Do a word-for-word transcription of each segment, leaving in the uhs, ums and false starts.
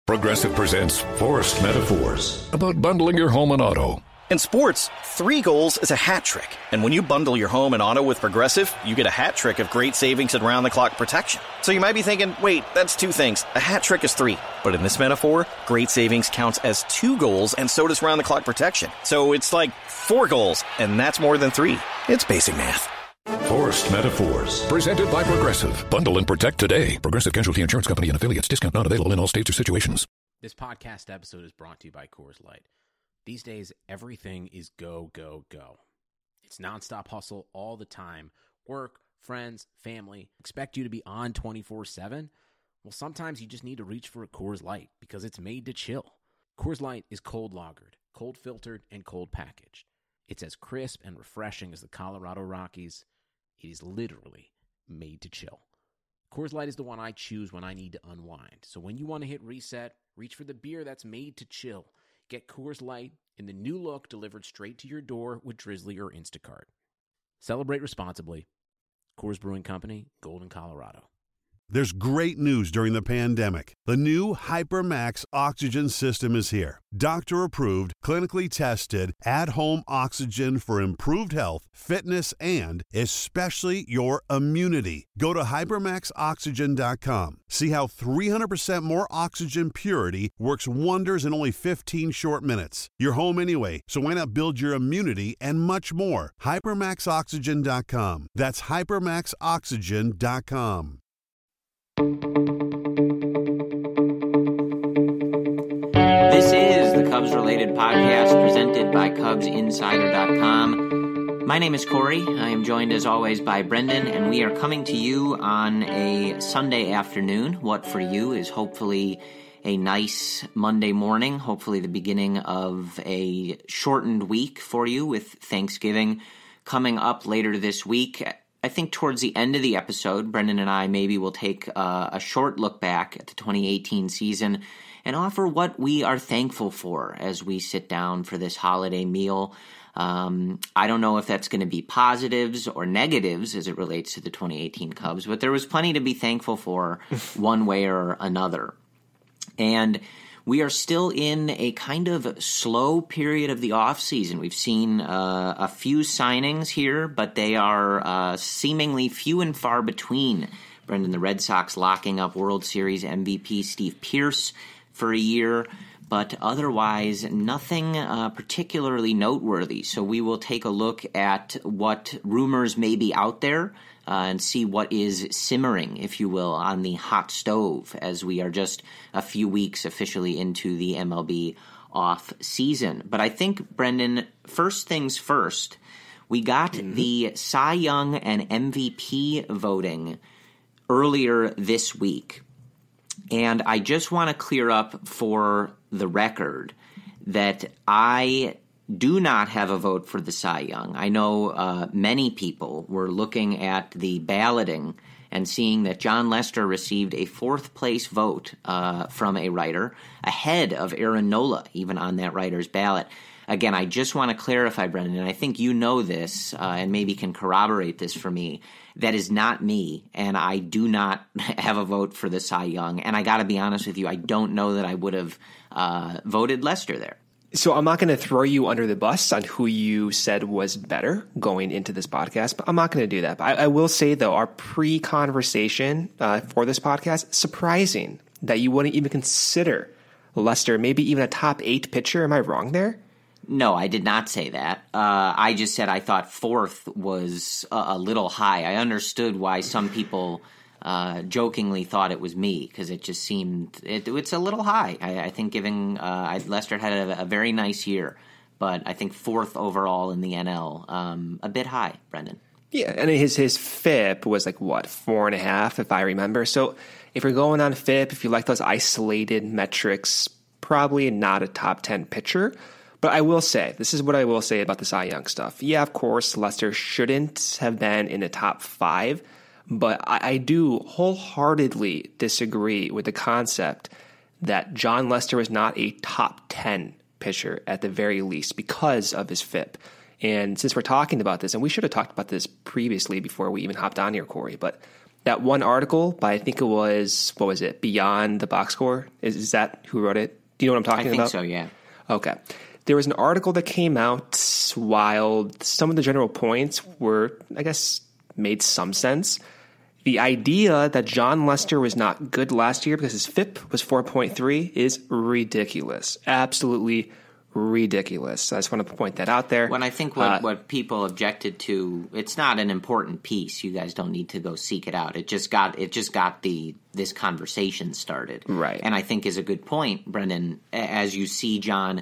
Progressive presents Forced Metaphors about bundling your home and auto. In sports, three goals is a hat trick. And when you bundle your home and auto with Progressive, you get a hat trick of great savings and round-the-clock protection. So you might be thinking, wait, that's two things. A hat trick is three. But in this metaphor, great savings counts as two goals, and so does round-the-clock protection. So it's like four goals, and that's more than three. It's basic math. Forced Metaphors. Presented by Progressive. Bundle and protect today. Progressive Casualty Insurance Company and affiliates. Discount not available in all states or situations. This podcast episode is brought to you by Coors Light. These days, everything is go, go, go. It's nonstop hustle all the time. Work, friends, family. Expect you to be on twenty-four seven? Well, sometimes you just need to reach for a Coors Light because it's made to chill. Coors Light is cold lagered, cold filtered, and cold packaged. It's as crisp and refreshing as the Colorado Rockies. It is literally made to chill. Coors Light is the one I choose when I need to unwind. So when you want to hit reset, reach for the beer that's made to chill. Get Coors Light in the new look delivered straight to your door with Drizzly or Instacart. Celebrate responsibly. Coors Brewing Company, Golden, Colorado. There's great news during the pandemic. The new HyperMax oxygen system is here. Doctor-approved, clinically tested, at-home oxygen for improved health, fitness, and especially your immunity. Go to hypermax oxygen dot com. See how three hundred percent more oxygen purity works wonders in only fifteen short minutes. You're home anyway, so why not build your immunity and much more? hypermax oxygen dot com. That's hypermax oxygen dot com. This is the Cubs-related podcast presented by Cubs Insider dot com. My name is Corey. I am joined as always by Brendan, and we are coming to you on a Sunday afternoon. What for you is hopefully a nice Monday morning, hopefully the beginning of a shortened week for you with Thanksgiving coming up later this week. I think towards the end of the episode, Brendan and I maybe will take uh, a short look back at the twenty eighteen season and offer what we are thankful for as we sit down for this holiday meal. Um, I don't know if that's going to be positives or negatives as it relates to the twenty eighteen Cubs, but there was plenty to be thankful for one way or another. And we are still in a kind of slow period of the offseason. We've seen uh, a few signings here, but they are uh, seemingly few and far between. Brendan, the Red Sox locking up World Series M V P Steve Pearce for a year, but otherwise nothing uh, particularly noteworthy. So we will take a look at what rumors may be out there Uh, and see what is simmering, if you will, on the hot stove as we are just a few weeks officially into the M L B off season. But I think, Brendan, first things first, we got mm-hmm. the Cy Young and M V P voting earlier this week. And I just want to clear up for the record that I do not have a vote for the Cy Young. I know uh, many people were looking at the balloting and seeing that John Lester received a fourth-place vote uh, from a writer, ahead of Aaron Nola, even on that writer's ballot. Again, I just want to clarify, Brendan, and I think you know this uh, and maybe can corroborate this for me. That is not me, and I do not have a vote for the Cy Young. And I got to be honest with you, I don't know that I would have uh, voted Lester there. So I'm not going to throw you under the bus on who you said was better going into this podcast, but I'm not going to do that. But I, I will say, though, our pre-conversation uh, for this podcast, surprising that you wouldn't even consider Lester, maybe even a top eight pitcher. Am I wrong there? No, I did not say that. Uh, I just said I thought fourth was a, a little high. I understood why some people Uh, jokingly thought it was me because it just seemed it, it's a little high. I, I think giving uh, Lester had a, a very nice year, but I think fourth overall in the N L, um, a bit high, Brendan. Yeah, and his his F I P was like what four and a half, if I remember. So if you're going on F I P, if you like those isolated metrics, probably not a top ten pitcher. But I will say, this is what I will say about the Cy Young stuff. Yeah, of course, Lester shouldn't have been in the top five. But I, I do wholeheartedly disagree with the concept that John Lester was not a top ten pitcher at the very least because of his F I P. And since we're talking about this, and we should have talked about this previously before we even hopped on here, Corey, but that one article by, I think it was, what was it, Beyond the Box Score? Is, is that who wrote it? Do you know what I'm talking about? I think about? so, yeah. Okay. There was an article that came out while some of the general points were, I guess, made some sense. The idea that Jon Lester was not good last year because his F I P was four point three is ridiculous. Absolutely ridiculous. So I just want to point that out there. When I think what, uh, what people objected to, it's not an important piece. You guys don't need to go seek it out. It just got it just got the this conversation started. Right. And I think is a good point, Brendan, as you see Jon,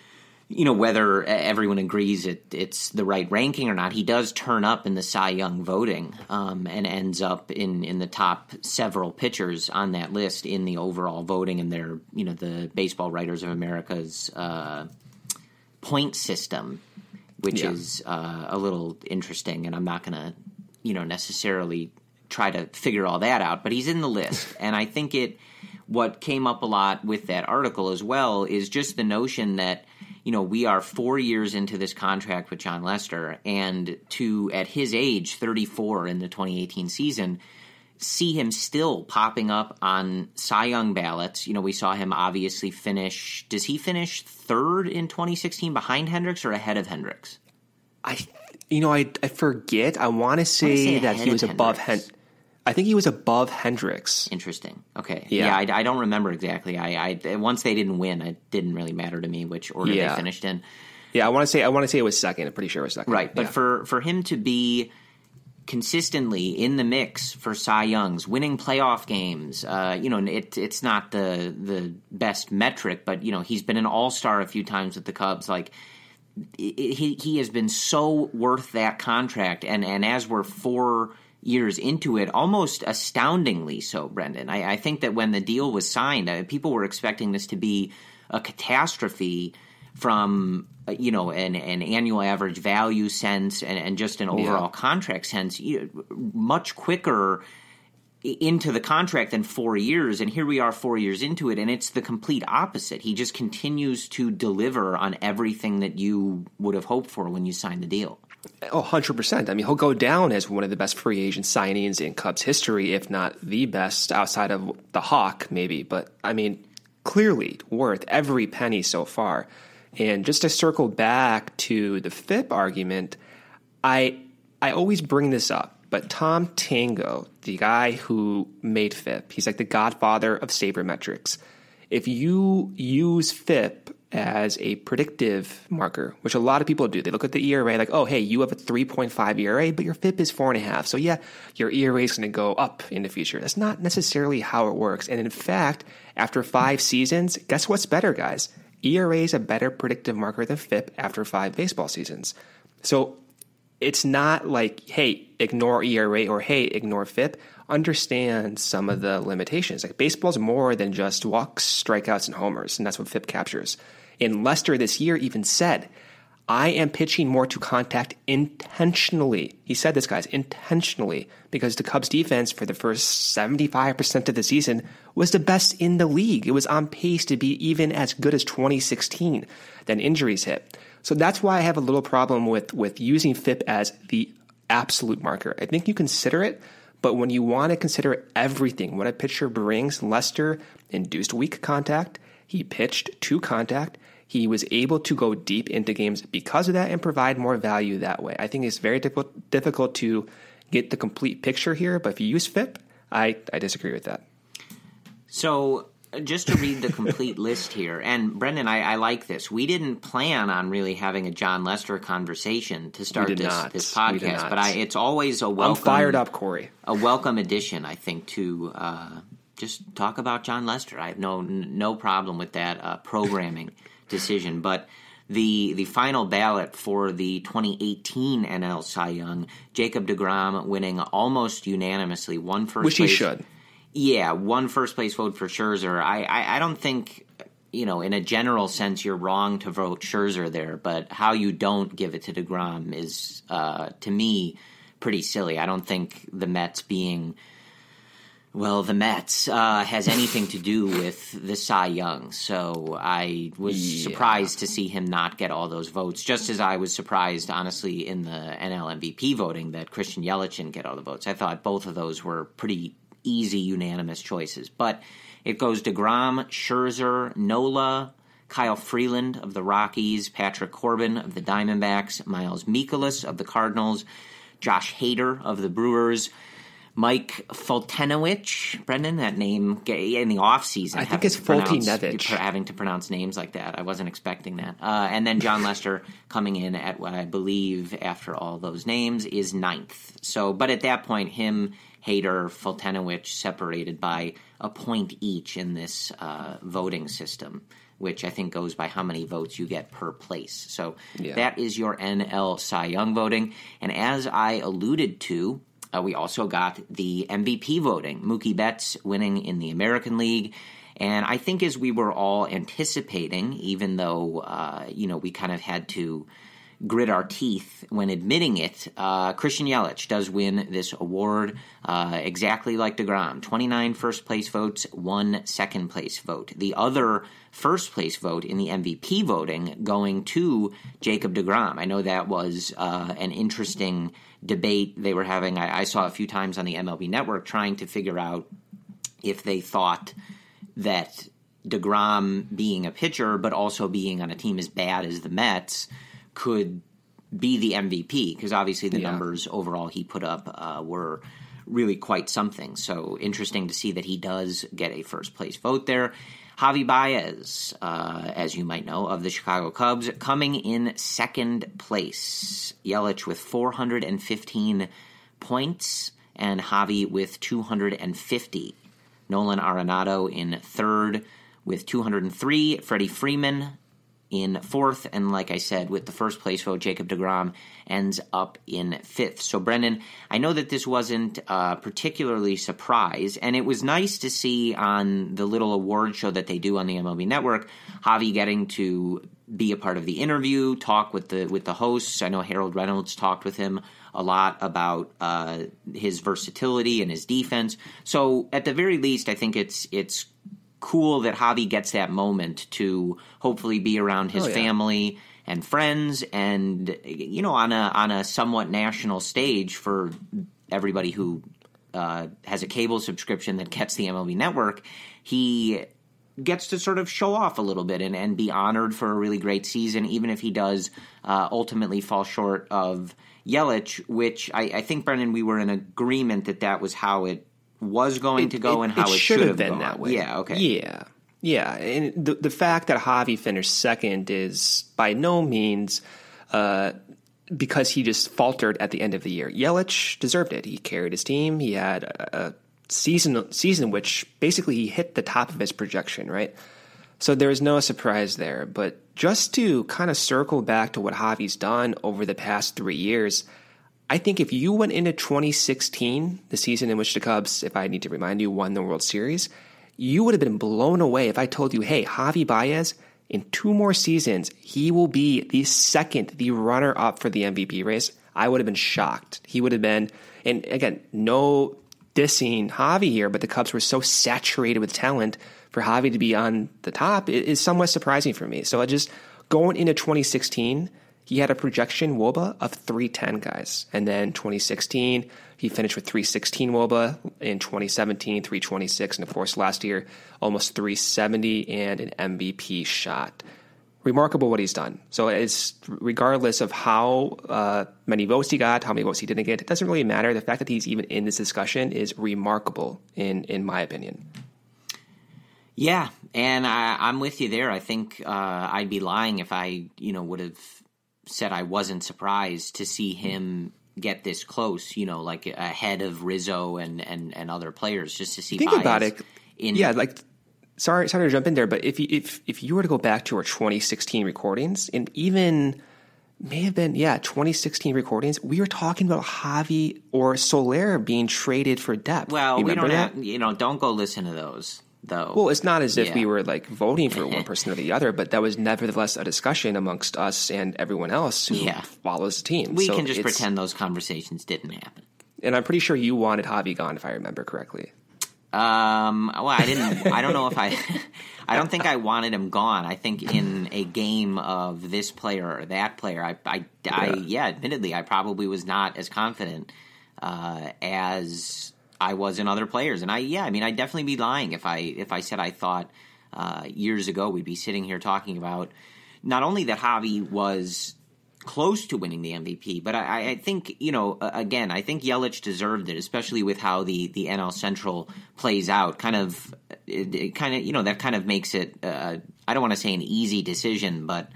you know, whether everyone agrees it, it's the right ranking or not, he does turn up in the Cy Young voting um, and ends up in, in the top several pitchers on that list in the overall voting, and their, you know, the Baseball Writers of America's uh, point system, which yeah. is uh, a little interesting, and I'm not going to, you know, necessarily try to figure all that out, but he's in the list, and I think it, what came up a lot with that article as well is just the notion that, you know, we are four years into this contract with Jon Lester, and to, at his age, thirty-four in the twenty eighteen season, see him still popping up on Cy Young ballots. You know, we saw him obviously finish – does he finish third in twenty sixteen behind Hendricks or ahead of Hendricks? I, you know, I, I forget. I want to say, say that he was above Hendricks. I think he was above Hendricks. Interesting. Okay. Yeah, yeah I, I don't remember exactly. I, I once they didn't win, it didn't really matter to me which order yeah. they finished in. Yeah, I want to say I want to say it was second. I'm pretty sure it was second. Right, but yeah. for for him to be consistently in the mix for Cy Youngs, winning playoff games, uh, you know, it, it's not the the best metric, but you know, he's been an all-star a few times with the Cubs. Like it, he he has been so worth that contract, and and as we're four years into it, almost astoundingly so, Brendan. I, I think that when the deal was signed, uh, people were expecting this to be a catastrophe from, uh, you know, an, an annual average value sense and, and just an overall yeah. contract sense, you know, much quicker into the contract than four years. And here we are four years into it, and it's the complete opposite. He just continues to deliver on everything that you would have hoped for when you signed the deal. Oh, one hundred percent. I mean, he'll go down as one of the best free agent signings in Cubs history, if not the best, outside of the Hawk, maybe. But, I mean, clearly worth every penny so far. And just to circle back to the F I P argument, I I always bring this up, but Tom Tango, the guy who made F I P, he's like the godfather of sabermetrics. If you use F I P as a predictive marker, which a lot of people do. They look at the E R A like, oh, hey, you have a three point five E R A, but your F I P is four and a half. So yeah, your E R A is going to go up in the future. That's not necessarily how it works. And in fact, after five seasons, guess what's better, guys? E R A is a better predictive marker than F I P after five baseball seasons. So it's not like, hey, ignore E R A or hey, ignore F I P. Understand some of the limitations. Like baseball's more than just walks, strikeouts, and homers, and that's what F I P captures. And Lester this year even said, I am pitching more to contact intentionally. He said this, guys, intentionally, because the Cubs defense for the first seventy-five percent of the season was the best in the league. It was on pace to be even as good as twenty sixteen. Then injuries hit. So that's why I have a little problem with, with using F I P as the absolute marker. I think you consider it, but when you want to consider everything, what a pitcher brings, Lester induced weak contact. He pitched to contact. He was able to go deep into games because of that and provide more value that way. I think it's very difficult, difficult to get the complete picture here, but if you use F I P, I, I disagree with that. So just to read the complete list here, and Brendan, I, I like this. We didn't plan on really having a Jon Lester conversation to start this, not. this podcast, but I, it's always a welcome. I'm fired up, Corey. A welcome addition, I think, to uh, just talk about Jon Lester. I have no no problem with that uh, programming decision, but the the final ballot for the twenty eighteen N L Cy Young, Jacob deGrom winning almost unanimously, one first Which place. he should. Yeah, one first place vote for Scherzer. I, I, I don't think, you know, in a general sense, you're wrong to vote Scherzer there, but how you don't give it to deGrom is, uh, to me, pretty silly. I don't think the Mets being well, the Mets uh, has anything to do with the Cy Young. So I was yeah. surprised to see him not get all those votes, just as I was surprised, honestly, in the N L M V P voting that Christian Yelich didn't get all the votes. I thought both of those were pretty easy, unanimous choices. But it goes DeGrom, Scherzer, Nola, Kyle Freeland of the Rockies, Patrick Corbin of the Diamondbacks, Miles Mikolas of the Cardinals, Josh Hader of the Brewers, Mike Foltynewicz, Brendan, that name in the offseason. I think it's Foltynewicz. Having to pronounce names like that. I wasn't expecting that. Uh, and then John Lester coming in at what I believe, after all those names, is ninth. So, but at that point, him, Hader, Foltynewicz separated by a point each in this uh, voting system, which I think goes by how many votes you get per place. So yeah. that is your N L Cy Young voting. And as I alluded to, Uh, we also got the M V P voting, Mookie Betts winning in the American League. And I think as we were all anticipating, even though, uh, you know, we kind of had to grit our teeth when admitting it, uh, Christian Yelich does win this award uh, exactly like DeGrom. twenty-nine first-place votes, one second-place vote. The other first-place vote in the M V P voting going to Jacob DeGrom. I know that was uh, an interesting debate they were having. I, I saw a few times on the M L B Network trying to figure out if they thought that DeGrom being a pitcher but also being on a team as bad as the Mets could be the M V P, because obviously the yeah. numbers overall he put up uh, were really quite something. So interesting to see that he does get a first-place vote there. Javi Baez, uh, as you might know, of the Chicago Cubs, coming in second place. Yelich with four hundred fifteen points and Javi with two hundred fifty. Nolan Arenado in third with two hundred three. Freddie Freeman in fourth, and like I said, with the first place vote, Jacob DeGrom ends up in fifth. So, Brendan, I know that this wasn't uh, particularly surprise, and it was nice to see on the little award show that they do on the M L B Network, Javi getting to be a part of the interview, talk with the with the hosts. I know Harold Reynolds talked with him a lot about uh, his versatility and his defense. So, at the very least, I think it's it's cool that Javi gets that moment to hopefully be around his oh, yeah. family and friends, and you know, on a on a somewhat national stage for everybody who uh, has a cable subscription that gets the M L B Network. He gets to sort of show off a little bit and, and be honored for a really great season, even if he does uh, ultimately fall short of Yelich, which I, I think, Brendan, we were in agreement that that was how it was going it, to go it, and how it, it should have been gone. that way. Yeah, okay. Yeah. Yeah, and the the fact that Javi finished second is by no means uh, because he just faltered at the end of the year. Yelich deserved it. He carried his team. He had a, a season season which basically he hit the top of his projection, right? So there is no surprise there. But just to kind of circle back to what Javi's done over the past three years, I think if you went into twenty sixteen, the season in which the Cubs, if I need to remind you, won the World Series, you would have been blown away if I told you, hey, Javi Baez, in two more seasons, he will be the second, the runner-up for the M V P race. I would have been shocked. He would have been, and again, no dissing Javi here, but the Cubs were so saturated with talent for Javi to be on the top. It is somewhat surprising for me. So I just, going into twenty sixteen, he had a projection W O B A of three ten, guys. And then twenty sixteen, he finished with three sixteen W O B A. In twenty seventeen, three twenty-six. And of course, last year, almost three seventy and an M V P shot. Remarkable what he's done. So it's regardless of how uh, many votes he got, how many votes he didn't get, it doesn't really matter. The fact that he's even in this discussion is remarkable, in, in my opinion. Yeah, and I, I'm with you there. I think uh, I'd be lying if I, you know, would have said I wasn't surprised to see him get this close, you know, like ahead of Rizzo and, and, and other players, just to see. Think Baez about it. In, yeah, like sorry, sorry to jump in there, but if you, if if you were to go back to our twenty sixteen recordings, and even may have been yeah twenty sixteen recordings, we were talking about Javi or Soler being traded for depth. Well, we don't that? have, you know, don't go listen to those. Though. Well, it's not as if yeah. we were like voting for one person or the other, but that was nevertheless a discussion amongst us and everyone else who yeah. follows the team. We so can just pretend those conversations didn't happen. And I'm pretty sure you wanted Javi gone, if I remember correctly. Um, well, I didn't. I don't know if I. I don't think I wanted him gone. I think in a game of this player or that player, I, I, I yeah. yeah, admittedly, I probably was not as confident uh, as I was in other players. And I, yeah, I mean, I'd definitely be lying if I if I said I thought uh, years ago we'd be sitting here talking about not only that Javi was close to winning the M V P, but I, I think, you know, again, I think Yelich deserved it, especially with how the, the N L Central plays out. Kind of, it, it kind of, you know, that kind of makes it, uh, I don't want to say an easy decision, but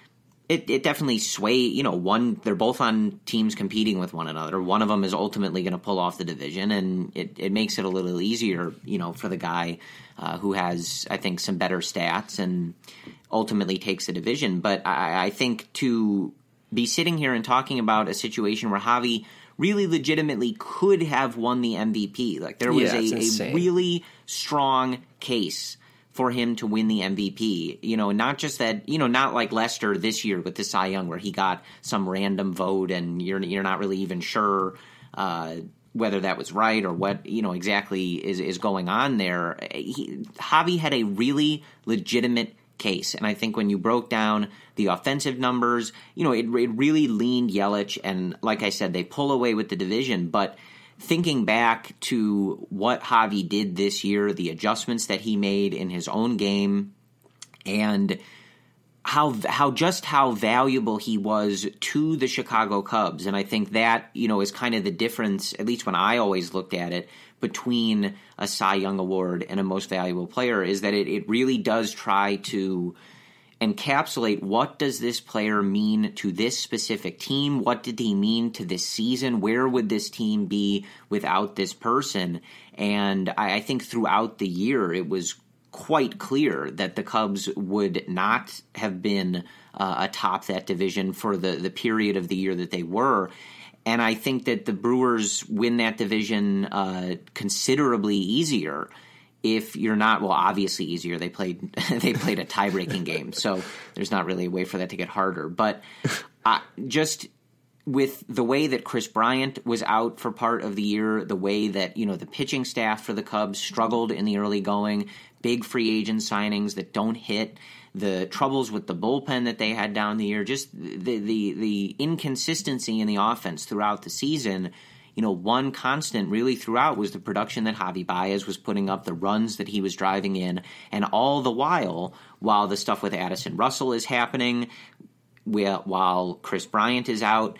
it, it definitely sway, you know, one, they're both on teams competing with one another. One of them is ultimately going to pull off the division, and it, it makes it a little easier, you know, for the guy uh, who has, I think, some better stats and ultimately takes the division. But I, I think to be sitting here and talking about a situation where Javi really legitimately could have won the M V P. Like there was yeah, a, a really strong case for him to win the M V P. You know, not just that, you know, not like Lester this year with the Cy Young where he got some random vote and you're you're not really even sure uh, whether that was right or what, you know, exactly is, is going on there. He, Javi had a really legitimate case. And I think when you broke down the offensive numbers, you know, it, it really leaned Yelich. And like I said, they pull away with the division. But thinking back to what Javi did this year, the adjustments that he made in his own game, and how how just how valuable he was to the Chicago Cubs. And I think that, you know, is kind of the difference, at least when I always looked at it, between a Cy Young Award and a Most Valuable Player, is that it, it really does try to encapsulate what does this player mean to this specific team? What did he mean to this season? Where would this team be without this person? And I, I think throughout the year it was quite clear that the Cubs would not have been uh, atop that division for the, the period of the year that they were. And I think that the Brewers win that division uh, considerably easier if you're not, well, obviously easier. They played they played a tie-breaking game, so there's not really a way for that to get harder. But uh, just with the way that Chris Bryant was out for part of the year, the way that, you know, the pitching staff for the Cubs struggled in the early going, big free agent signings that don't hit, the troubles with the bullpen that they had down the year, just the the the inconsistency in the offense throughout the season. You know, one constant really throughout was the production that Javi Baez was putting up, the runs that he was driving in, and all the while, while the stuff with Addison Russell is happening, while Chris Bryant is out,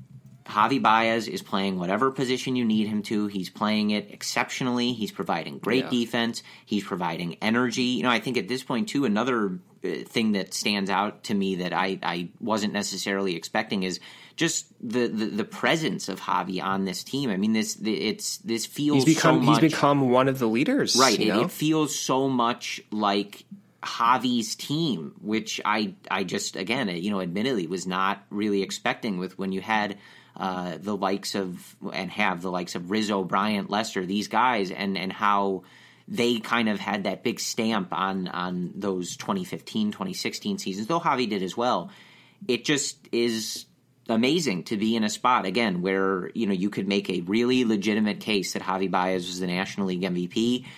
Javi Baez is playing whatever position you need him to. He's playing it exceptionally. He's providing great yeah. defense. He's providing energy. You know, I think at this point, too, another thing that stands out to me that I, I wasn't necessarily expecting is just the, the, the presence of Javi on this team. I mean, this it's this feels he's become, so much... He's become one of the leaders. Right. You it, know? it feels so much like Javi's team, which I, I just, again, you know, admittedly was not really expecting with when you had... Uh, the likes of, and have the likes of Rizzo, Bryant, Lester, these guys, and, and how they kind of had that big stamp on, on those twenty fifteen, twenty sixteen seasons, though Javi did as well. It just is amazing to be in a spot, again, where, you know, you could make a really legitimate case that Javi Baez was the National League M V P,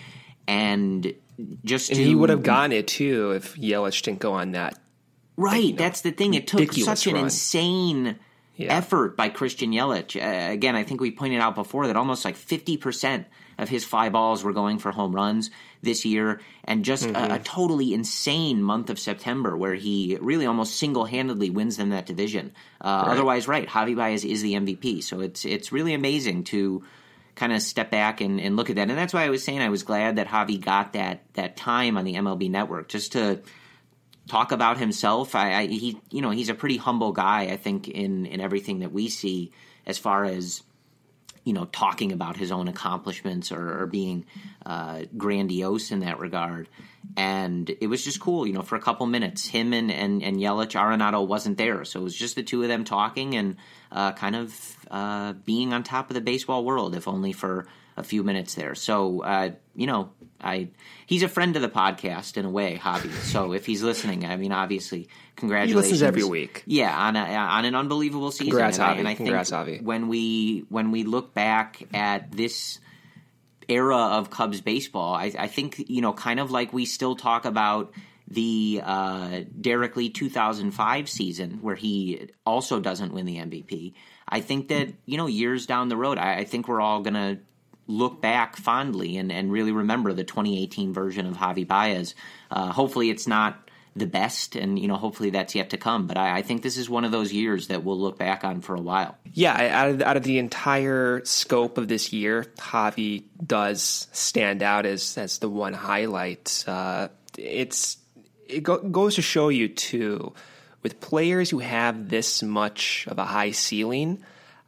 and just and to, he would have gotten it, too, if Yelich didn't go on that. Right, you know, that's the thing. It took such an run. insane... Yeah. effort by Christian Yelich. Uh, again, I think we pointed out before that almost like fifty percent of his fly balls were going for home runs this year, and just mm-hmm. a, a totally insane month of September where he really almost single-handedly wins them that division. Uh, right. Otherwise, right, Javi Baez is the M V P. So it's it's really amazing to kind of step back and, and look at that. And that's why I was saying I was glad that Javi got that that time on the M L B Network, just to talk about himself. I, I he you know he's a pretty humble guy, I think, in in everything that we see as far as, you know, talking about his own accomplishments or, or being uh, grandiose in that regard. And it was just cool, you know, for a couple minutes. Him and and, and Yelich, Arenado wasn't there, so it was just the two of them talking and uh, kind of uh, being on top of the baseball world, if only for a few minutes there. So, uh, you know, I he's a friend of the podcast in a way, Javi. So if he's listening, I mean, obviously, congratulations. He listens every week. Yeah, on a, on an unbelievable season. Congrats, and Javi. I, and I Congrats, think Javi. when we when we look back at this era of Cubs baseball. I, I think, you know, kind of like we still talk about the uh, Derek Lee two thousand five season where he also doesn't win the M V P. I think that, you know, years down the road, I, I think we're all going to look back fondly and, and really remember the twenty eighteen version of Javi Baez. Uh, hopefully it's not the best, and, you know, hopefully that's yet to come. But I, I think this is one of those years that we'll look back on for a while. Yeah, out of, out of the entire scope of this year, Javi does stand out as, as the one highlight. Uh, it's It go, goes to show you, too, with players who have this much of a high ceiling,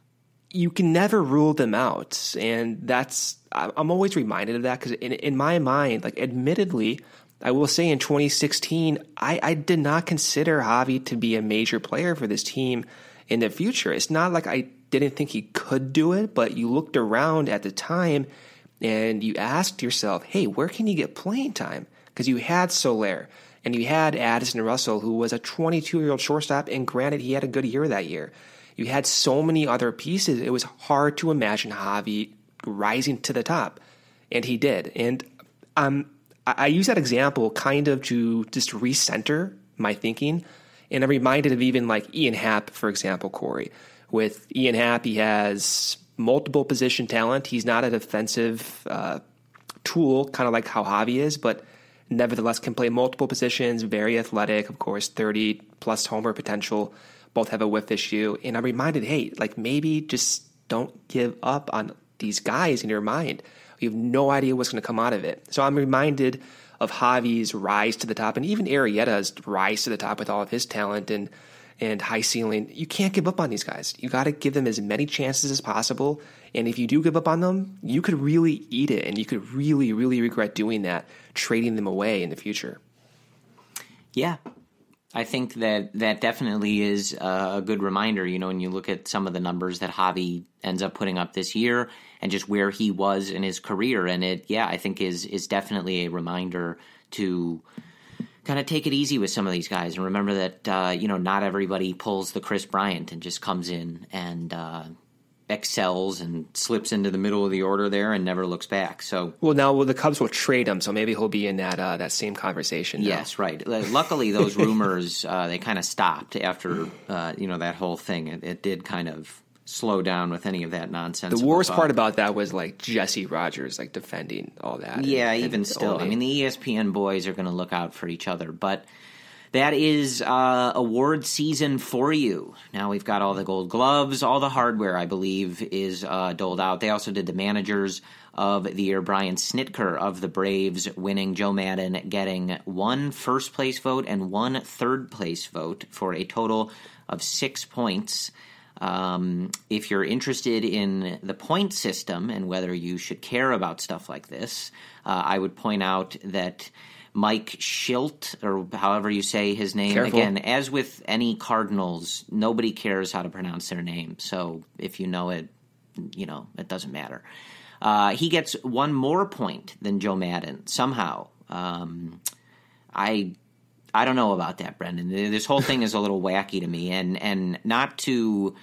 you can never rule them out. And that's, I'm always reminded of that because in, in my mind, like, admittedly, I will say in twenty sixteen, I, I did not consider Javi to be a major player for this team in the future. It's not like I didn't think he could do it, but you looked around at the time and you asked yourself, hey, where can you get playing time? Because you had Soler. And you had Addison Russell, who was a twenty-two-year-old shortstop, and granted, he had a good year that year. You had so many other pieces, it was hard to imagine Javi rising to the top, and he did. And um, I, I use that example kind of to just recenter my thinking, and I'm reminded of even like Ian Happ, for example, Corey. With Ian Happ, he has multiple position talent. He's not a defensive uh, tool, kind of like how Javi is, but nevertheless can play multiple positions, very athletic, of course, thirty plus homer potential, both have a whiff issue. And I'm reminded, hey, like maybe just don't give up on these guys in your mind. You have no idea what's going to come out of it. So I'm reminded of Javi's rise to the top and even Arrieta's rise to the top with all of his talent and, and high ceiling. You can't give up on these guys. You got to give them as many chances as possible. And if you do give up on them, you could really eat it, and you could really, really regret doing that, trading them away in the future. Yeah, I think that that definitely is a good reminder. You know, when you look at some of the numbers that Javi ends up putting up this year and just where he was in his career, and it, yeah, I think is is definitely a reminder to kind of take it easy with some of these guys and remember that, uh, you know, not everybody pulls the Chris Bryant and just comes in and uh, excels and slips into the middle of the order there and never looks back. So, well, now well, the Cubs will trade him, so maybe he'll be in that uh, that same conversation. Yes, now. Right. Luckily, those rumors uh, they kind of stopped after uh, you know that whole thing. It, it did kind of slow down with any of that nonsense. The worst part about that was like Jesse Rogers like defending all that. Yeah, and, even and still, only. I mean, the E S P N boys are going to look out for each other, but. That is uh, award season for you. Now we've got all the gold gloves, all the hardware, I believe, is uh, doled out. They also did the managers of the year, Brian Snitker of the Braves winning, Joe Maddon getting one first-place vote and one third-place vote for a total of six points. Um, if you're interested in the point system and whether you should care about stuff like this, uh, I would point out that Mike Schilt, or however you say his name, Careful. Again, as with any Cardinals, nobody cares how to pronounce their name. So if you know it, you know, it doesn't matter. Uh, he gets one more point than Joe Maddon, somehow. Um, I I don't know about that, Brendan. This whole thing is a little wacky to me, and, and not to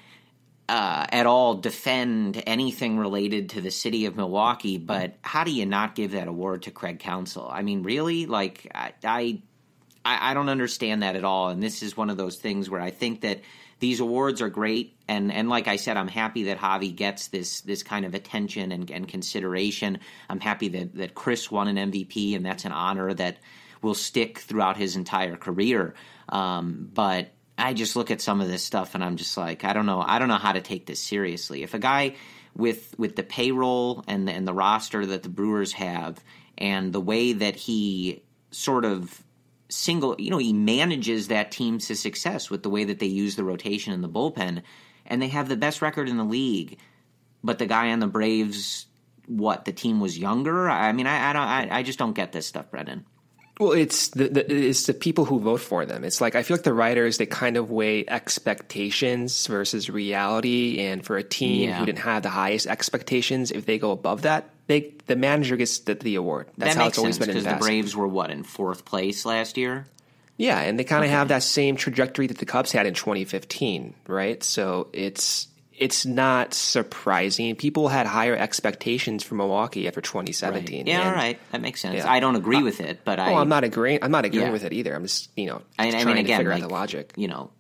uh, at all defend anything related to the city of Milwaukee, but how do you not give that award to Craig Counsell? I mean, really? Like, I, I I don't understand that at all, and this is one of those things where I think that these awards are great, and, and like I said, I'm happy that Javi gets this this kind of attention and, and consideration. I'm happy that, that Chris won an M V P, and that's an honor that will stick throughout his entire career. Um, but I just look at some of this stuff and I'm just like, I don't know. I don't know how to take this seriously. If a guy with with the payroll and and the roster that the Brewers have and the way that he sort of single, you know, he manages that team to success with the way that they use the rotation and the bullpen, and they have the best record in the league, but the guy on the Braves, what, the team was younger? I mean, I, I don't, I, I just don't get this stuff, Brendan. Well, it's the, the it's the people who vote for them. It's like I feel like the writers, they kind of weigh expectations versus reality. And for a team yeah. who didn't have the highest expectations, if they go above that, they the manager gets the, the award. That's that how makes it's always sense, been in the because past. the Braves were what, in fourth place last year? Yeah, and they kind of okay. have that same trajectory that the Cubs had in twenty fifteen, right? So it's it's not surprising. People had higher expectations for Milwaukee after twenty seventeen. Right. Yeah, and, all right, that makes sense. Yeah. I don't agree with it, but I. Well, I'm not agreeing. I'm not agreeing yeah. with it either. I'm just you know I, trying I mean, again, to figure like, out the logic. You know,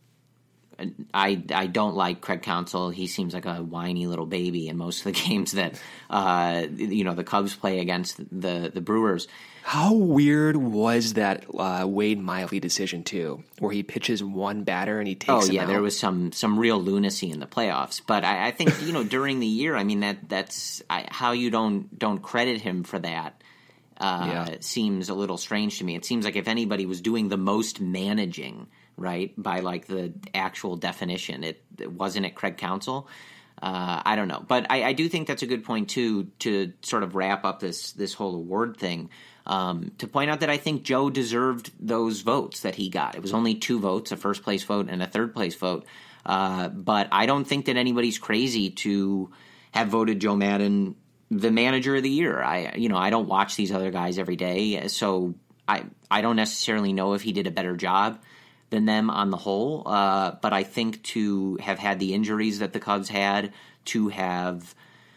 I I don't like Craig Counsell. He seems like a whiny little baby in most of the games that uh, you know the Cubs play against the the Brewers. How weird was that uh, Wade Miley decision too, where he pitches one batter and he takes? Oh him yeah, out? there was some some real lunacy in the playoffs. But I, I think you know during the year, I mean that that's I, how you don't don't credit him for that. Uh, yeah. seems a little strange to me. It seems like if anybody was doing the most managing, right, by like the actual definition, it, it wasn't it Craig Counsell. Uh, I don't know, but I, I do think that's a good point too to sort of wrap up this this whole award thing. Um, to point out that I think Joe deserved those votes that he got. It was only two votes, a first place vote and a third place vote. Uh, but I don't think that anybody's crazy to have voted Joe Maddon the manager of the year. I, you know, I don't watch these other guys every day, so I, I don't necessarily know if he did a better job than them on the whole. Uh, but I think to have had the injuries that the Cubs had, to have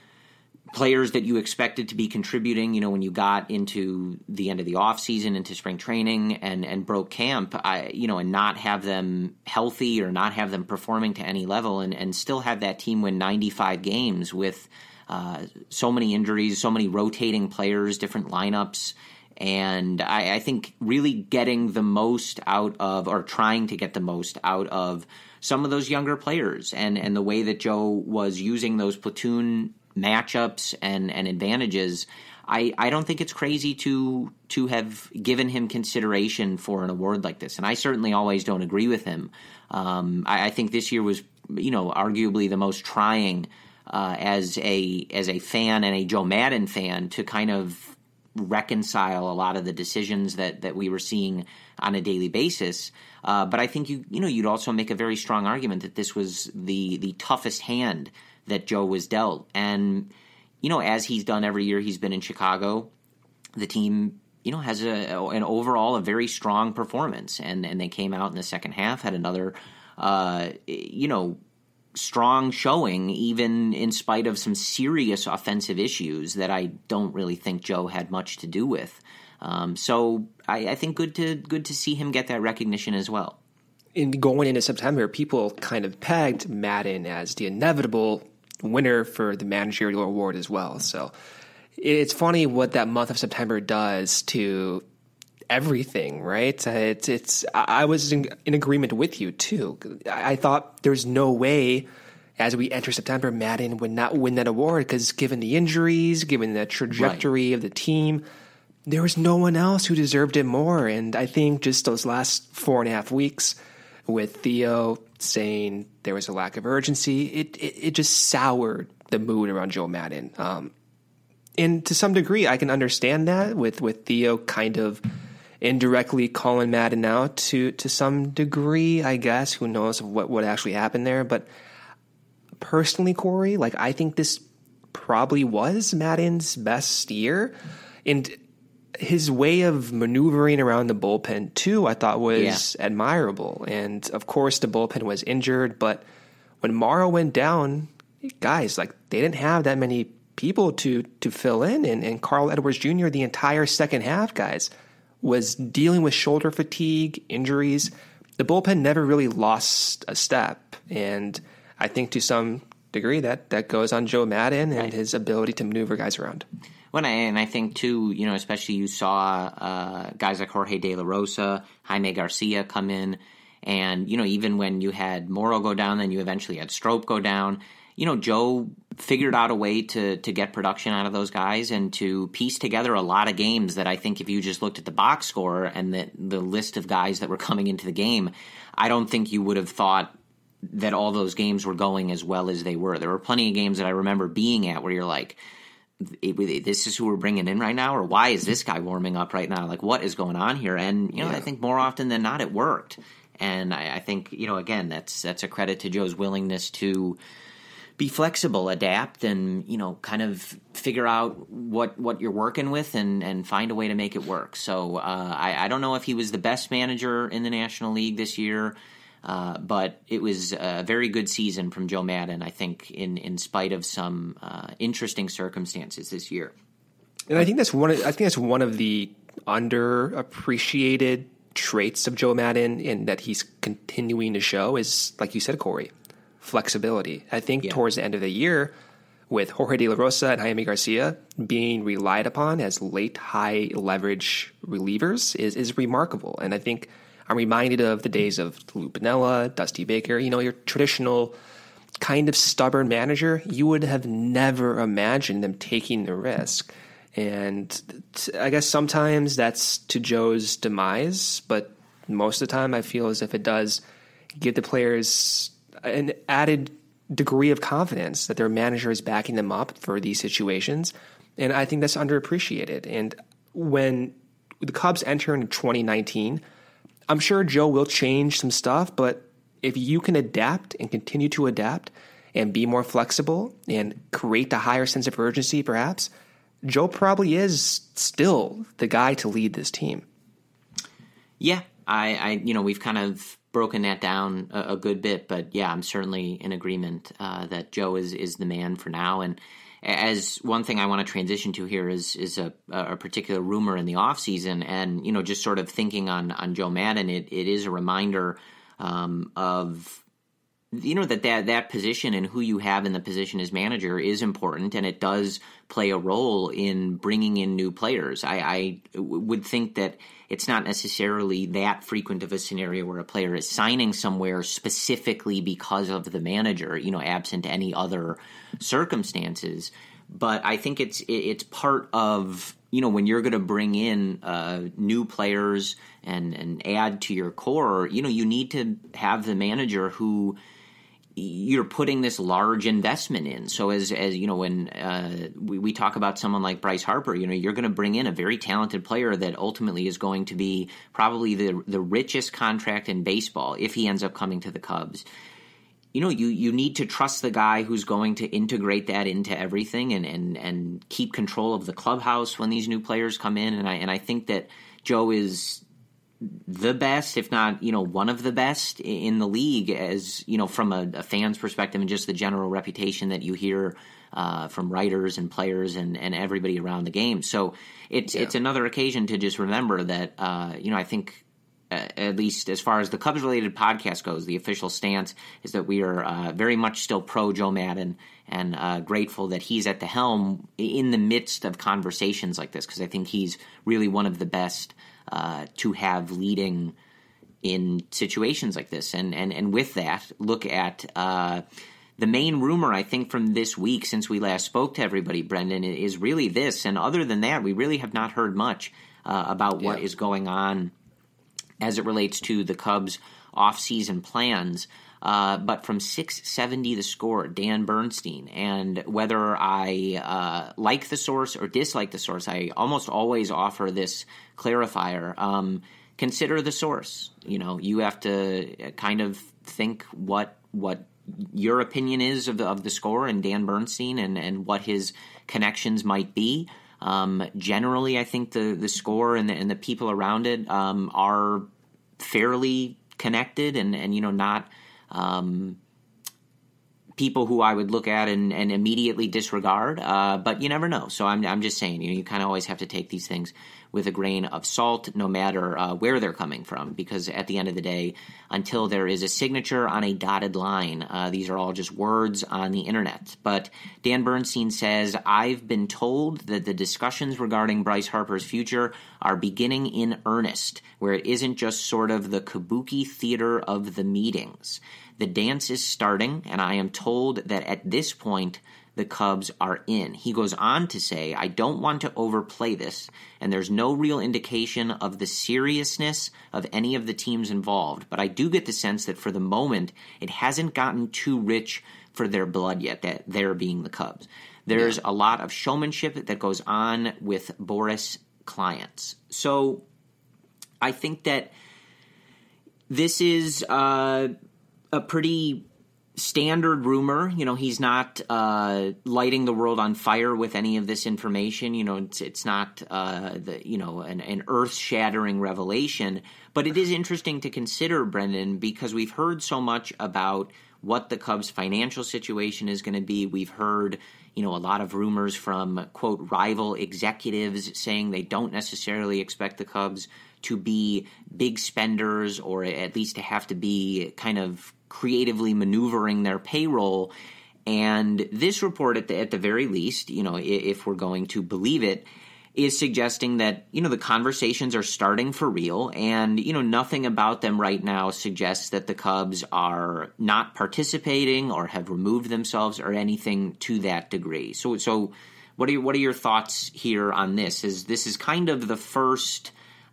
players that you expected to be contributing, you know, when you got into the end of the offseason, into spring training and, and broke camp, I, you know, and not have them healthy or not have them performing to any level and, and still have that team win ninety-five games with uh, so many injuries, so many rotating players, different lineups. And I, I think really getting the most out of, or trying to get the most out of some of those younger players and, and the way that Joe was using those platoon matchups and, and advantages, I, I don't think it's crazy to to have given him consideration for an award like this. And I certainly always don't agree with him. Um, I, I think this year was, you know, arguably the most trying uh, as a as a fan and a Joe Maddon fan to kind of reconcile a lot of the decisions that, that we were seeing on a daily basis. Uh, but I think you you know you'd also make a very strong argument that this was the the toughest hand that Joe was dealt. And, you know, as he's done every year he's been in Chicago, the team, you know, has a, an overall a very strong performance. And, and they came out in the second half, had another, uh, you know, strong showing, even in spite of some serious offensive issues that I don't really think Joe had much to do with. Um, so I, I think good to good to see him get that recognition as well. In going into September, people kind of pegged Maddon as the inevitable winner for the managerial award as well. So it's funny what that month of September does to everything, right? It's, it's, I was in, in agreement with you too. I thought there's no way as we enter September, Maddon would not win that award because given the injuries, given the trajectory right. of the team, there was no one else who deserved it more. And I think just those last four and a half weeks with Theo saying there was a lack of urgency, it, it, it just soured the mood around Joe Maddon. Um, and to some degree, I can understand that with, with Theo kind of indirectly calling Maddon out to, to some degree, I guess. Who knows what, what actually happened there. But personally, Corey, like I think this probably was Maddon's best year. And his way of maneuvering around the bullpen, too, I thought was yeah. admirable. And, of course, the bullpen was injured. But when Morrow went down, guys, like they didn't have that many people to to fill in. And, and Carl Edwards Junior, the entire second half, guys, was dealing with shoulder fatigue, injuries. The bullpen never really lost a step. And I think to some degree that, that goes on Joe Maddon and right. his ability to maneuver guys around. Well, and I think, too, you know, especially you saw uh, guys like Jorge De La Rosa, Jaime Garcia come in. And, you know, even when you had Morrow go down, then you eventually had Strop go down. You know, Joe figured out a way to to get production out of those guys and to piece together a lot of games that I think if you just looked at the box score and the, the list of guys that were coming into the game, I don't think you would have thought that all those games were going as well as they were. There were plenty of games that I remember being at where you're like, this is who we're bringing in right now, or why is this guy warming up right now? Like, what is going on here? And, you know, yeah. I think more often than not it worked. And I, I think, you know, again, that's that's a credit to Joe's willingness to be flexible, adapt, and, you know, kind of figure out what, what you're working with and, and find a way to make it work. So uh, I, I don't know if he was the best manager in the National League this year. Uh, but it was a very good season from Joe Maddon, I think, in, in spite of some uh, interesting circumstances this year. And I think that's one. Of, I think that's one of the underappreciated traits of Joe Maddon, and that he's continuing to show is, like you said, Corey, flexibility. I think yeah. towards the end of the year, with Jorge De La Rosa and Jaime Garcia being relied upon as late high leverage relievers, is is remarkable. And I think I'm reminded of the days of Lou Piniella, Dusty Baker, you know, your traditional kind of stubborn manager. You would have never imagined them taking the risk. And I guess sometimes that's to Joe's demise, but most of the time I feel as if it does give the players an added degree of confidence that their manager is backing them up for these situations. And I think that's underappreciated. And when the Cubs enter into twenty nineteen, I'm sure Joe will change some stuff, but if you can adapt and continue to adapt and be more flexible and create a higher sense of urgency, perhaps, Joe probably is still the guy to lead this team. Yeah, I, I you know, we've kind of broken that down a, a good bit, but yeah, I'm certainly in agreement uh, that Joe is is the man for now. And as one thing I want to transition to here is is a, a particular rumor in the offseason, and you know, just sort of thinking on on Joe Maddon, it it is a reminder um, of. You know, that, that that position and who you have in the position as manager is important, and it does play a role in bringing in new players. I, I would think that it's not necessarily that frequent of a scenario where a player is signing somewhere specifically because of the manager, you know, absent any other circumstances. But I think it's it's part of, you know, when you're going to bring in uh, new players and, and add to your core, you know, you need to have the manager who you're putting this large investment in. So as, as you know, when uh, we, we talk about someone like Bryce Harper, you know, you're going to bring in a very talented player that ultimately is going to be probably the the richest contract in baseball if he ends up coming to the Cubs. You know, you, you need to trust the guy who's going to integrate that into everything and, and, and keep control of the clubhouse when these new players come in. And I and I think that Joe is the best, if not, you know, one of the best in the league, as, you know, from a, a fan's perspective and just the general reputation that you hear uh, from writers and players and, and everybody around the game. So it's, yeah. it's another occasion to just remember that, uh, you know, I think uh, at least as far as the Cubs-related podcast goes, the official stance is that we are uh, very much still pro Joe Maddon and uh, grateful that he's at the helm in the midst of conversations like this, because I think he's really one of the best Uh, to have leading in situations like this. And and, and with that, look at uh, the main rumor, I think, from this week since we last spoke to everybody, Brendan, is really this. And other than that, we really have not heard much uh, about what yeah. is going on as it relates to the Cubs' off-season plans. Uh, but from six seventy The Score, Dan Bernstein, and whether I uh, like the source or dislike the source, I almost always offer this clarifier. Um, consider the source. You know, you have to kind of think what what your opinion is of the, of the Score and Dan Bernstein and, and what his connections might be. Um, generally, I think the, the Score and the, and the people around it um, are fairly connected and, and you know, not Um, people who I would look at and, and immediately disregard, uh, but you never know. So I'm I'm just saying, you know, you kind of always have to take these things with a grain of salt, no matter uh, where they're coming from, because at the end of the day, until there is a signature on a dotted line, uh, these are all just words on the internet. But Dan Bernstein says, I've been told that the discussions regarding Bryce Harper's future are beginning in earnest, where it isn't just sort of the kabuki theater of the meetings. The dance is starting, and I am told that at this point, the Cubs are in. He goes on to say, I don't want to overplay this, and there's no real indication of the seriousness of any of the teams involved, but I do get the sense that for the moment, it hasn't gotten too rich for their blood yet, that they're being the Cubs. There's yeah. a lot of showmanship that goes on with Boras clients. So I think that this is uh, a pretty standard rumor. You know, he's not uh, lighting the world on fire with any of this information. You know, it's, it's not uh, the you know an, an earth-shattering revelation. But it is interesting to consider, Brendan, because we've heard so much about what the Cubs' financial situation is going to be. We've heard, you know, a lot of rumors from, quote, rival executives saying they don't necessarily expect the Cubs to be big spenders, or at least to have to be kind of creatively maneuvering their payroll. And this report, at the, at the very least, you know, if we're going to believe it, is suggesting that, you know, the conversations are starting for real, and, you know, nothing about them right now suggests that the Cubs are not participating or have removed themselves or anything to that degree. So, so what are your, what are your thoughts here on this? Is this is kind of the first,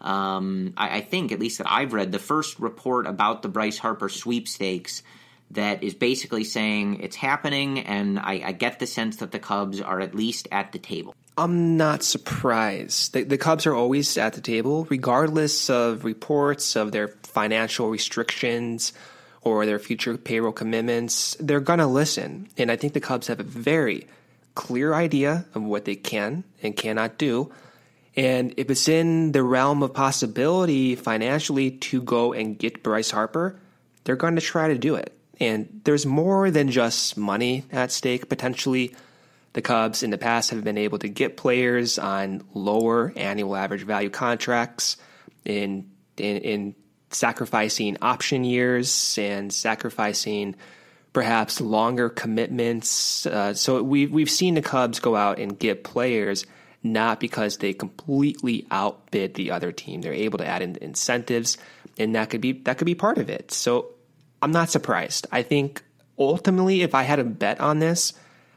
um, I, I think, at least that I've read, the first report about the Bryce Harper sweepstakes that is basically saying it's happening, and I, I get the sense that the Cubs are at least at the table. I'm not surprised. The, the Cubs are always at the table, regardless of reports of their financial restrictions or their future payroll commitments. They're going to listen. And I think the Cubs have a very clear idea of what they can and cannot do. And if it's in the realm of possibility financially to go and get Bryce Harper, they're going to try to do it. And there's more than just money at stake, potentially. The Cubs in the past have been able to get players on lower annual average value contracts in in, in sacrificing option years and sacrificing perhaps longer commitments. Uh, so we, we've seen the Cubs go out and get players not because they completely outbid the other team. They're able to add in incentives, and that could be that could be part of it. So I'm not surprised. I think ultimately, if I had a bet on this,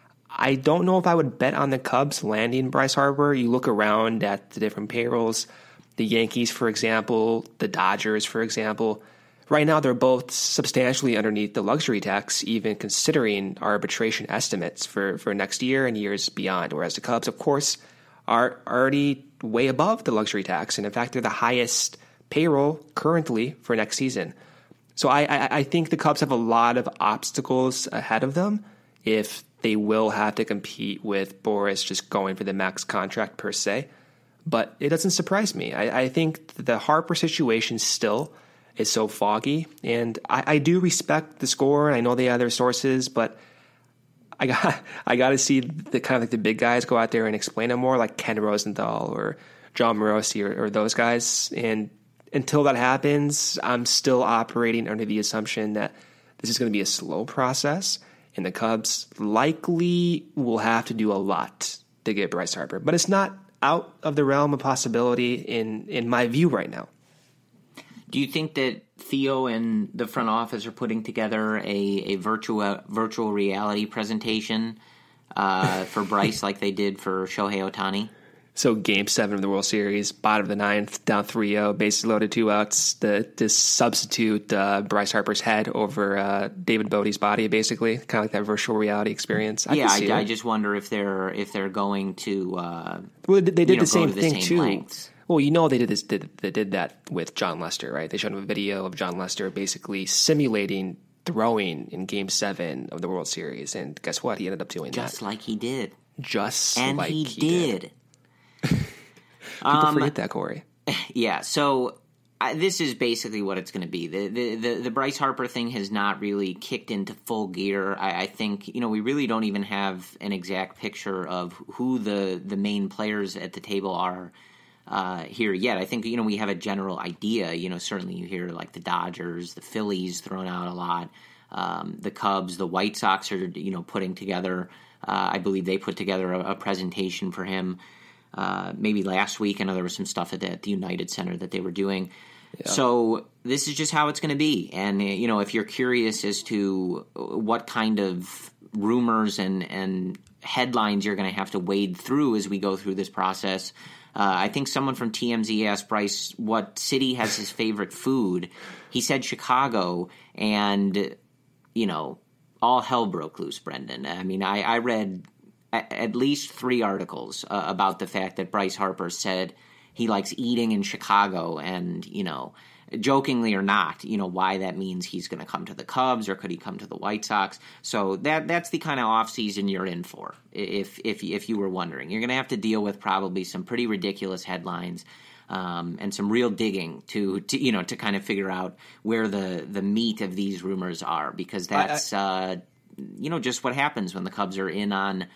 I don't know if I would bet on the Cubs landing Bryce Harper. You look around at the different payrolls, the Yankees, for example, the Dodgers, for example. Right now, they're both substantially underneath the luxury tax, even considering arbitration estimates for, for next year and years beyond. Whereas the Cubs, of course, are already way above the luxury tax. And in fact, they're the highest payroll currently for next season. So I, I, I think the Cubs have a lot of obstacles ahead of them if they will have to compete with Boras just going for the max contract per se. But it doesn't surprise me. I, I think the Harper situation still is so foggy. And I, I do respect the score. I know they have their sources, but I got I got to see the kind of like the big guys go out there and explain it more, like Ken Rosenthal or John Morosi or, or those guys. And until that happens, I'm still operating under the assumption that this is going to be a slow process. And the Cubs likely will have to do a lot to get Bryce Harper. But it's not out of the realm of possibility in, in my view right now. Do you think that Theo and the front office are putting together a, a virtual virtual reality presentation uh, for Bryce like they did for Shohei Ohtani? So game seven of the World Series, bottom of the ninth, down three oh, bases loaded, two outs. The, to substitute uh, Bryce Harper's head over uh, David Bodie's body, basically, kind of like that virtual reality experience. I yeah, I, I just wonder if they're if they're going to. Uh, well, they did you know, the same to the thing same too. Lengths. Well, you know they did this. Did, they did that with John Lester, right? They showed him a video of John Lester basically simulating throwing in Game Seven of the World Series, and guess what? He ended up doing just that, just like he did. Just and like he, he did. did. People um, forget that, Corey. Yeah, so I, this is basically what it's going to be. The, the the the Bryce Harper thing has not really kicked into full gear. I, I think, you know, we really don't even have an exact picture of who the, the main players at the table are uh, here yet. I think, you know, we have a general idea. You know, certainly you hear like the Dodgers, the Phillies thrown out a lot, um, the Cubs, the White Sox are, you know, putting together, uh, I believe they put together a, a presentation for him. Uh, maybe last week. I know there was some stuff at the, at the United Center that they were doing. Yeah. So this is just how it's going to be. And, you know, if you're curious as to what kind of rumors and, and headlines you're going to have to wade through as we go through this process, uh, I think someone from T M Z asked Bryce what city has his favorite food. He said Chicago, and, you know, all hell broke loose, Brendan. I mean, I, I read at least three articles uh, about the fact that Bryce Harper said he likes eating in Chicago, and, you know, jokingly or not, you know, why that means he's going to come to the Cubs or could he come to the White Sox. So that that's the kind of offseason you're in for, if if if you were wondering. You're going to have to deal with probably some pretty ridiculous headlines um, and some real digging to, to, you know, to kind of figure out where the, the meat of these rumors are, because that's, I, I, uh, you know, just what happens when the Cubs are in on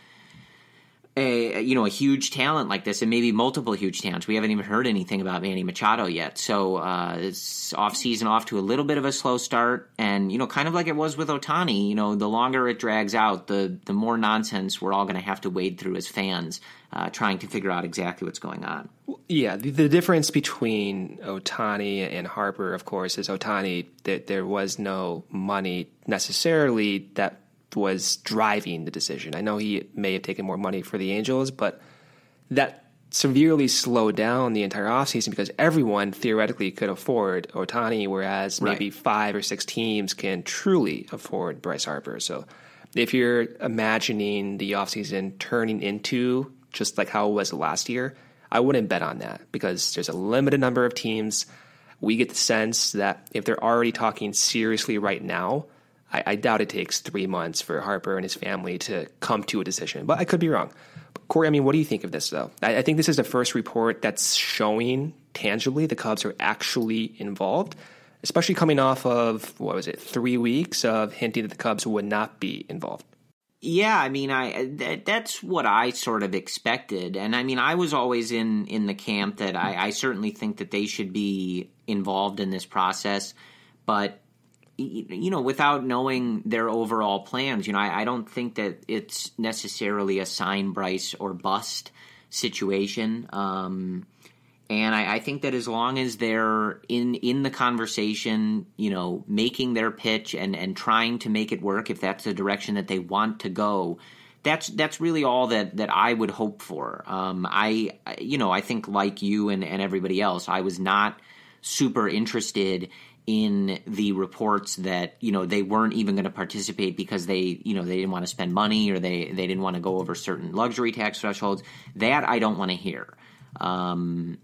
a, you know, a huge talent like this, and maybe multiple huge talents. We haven't even heard anything about Manny Machado yet. So uh, it's off season off to a little bit of a slow start, and you know, kind of like it was with Ohtani. You know, the longer it drags out, the the more nonsense we're all going to have to wade through as fans, uh, trying to figure out exactly what's going on. Yeah, the, the difference between Ohtani and Harper, of course, is Ohtani that there was no money necessarily that was driving the decision. I know he may have taken more money for the Angels, but that severely slowed down the entire offseason because everyone theoretically could afford Ohtani, whereas right. maybe five or six teams can truly afford Bryce Harper. So if you're imagining the offseason turning into just like how it was last year, I wouldn't bet on that because there's a limited number of teams. We get the sense that if they're already talking seriously right now, I, I doubt it takes three months for Harper and his family to come to a decision, but I could be wrong. But Corey, I mean, what do you think of this, though? I, I think this is the first report that's showing tangibly the Cubs are actually involved, especially coming off of, what was it, three weeks of hinting that the Cubs would not be involved. Yeah, I mean, I that, that's what I sort of expected. And I mean, I was always in, in the camp that I, I certainly think that they should be involved in this process, but you know, without knowing their overall plans, you know, I, I don't think that it's necessarily a sign Bryce or bust situation. Um, and I, I think that as long as they're in, in the conversation, you know, making their pitch and, and trying to make it work, if that's the direction that they want to go, that's that's really all that, that I would hope for. Um, I, you know, I think like you and, and everybody else, I was not super interested in the reports that, you know, they weren't even going to participate because they, you know, they didn't want to spend money or they, they didn't want to go over certain luxury tax thresholds. That I don't want to hear. Um,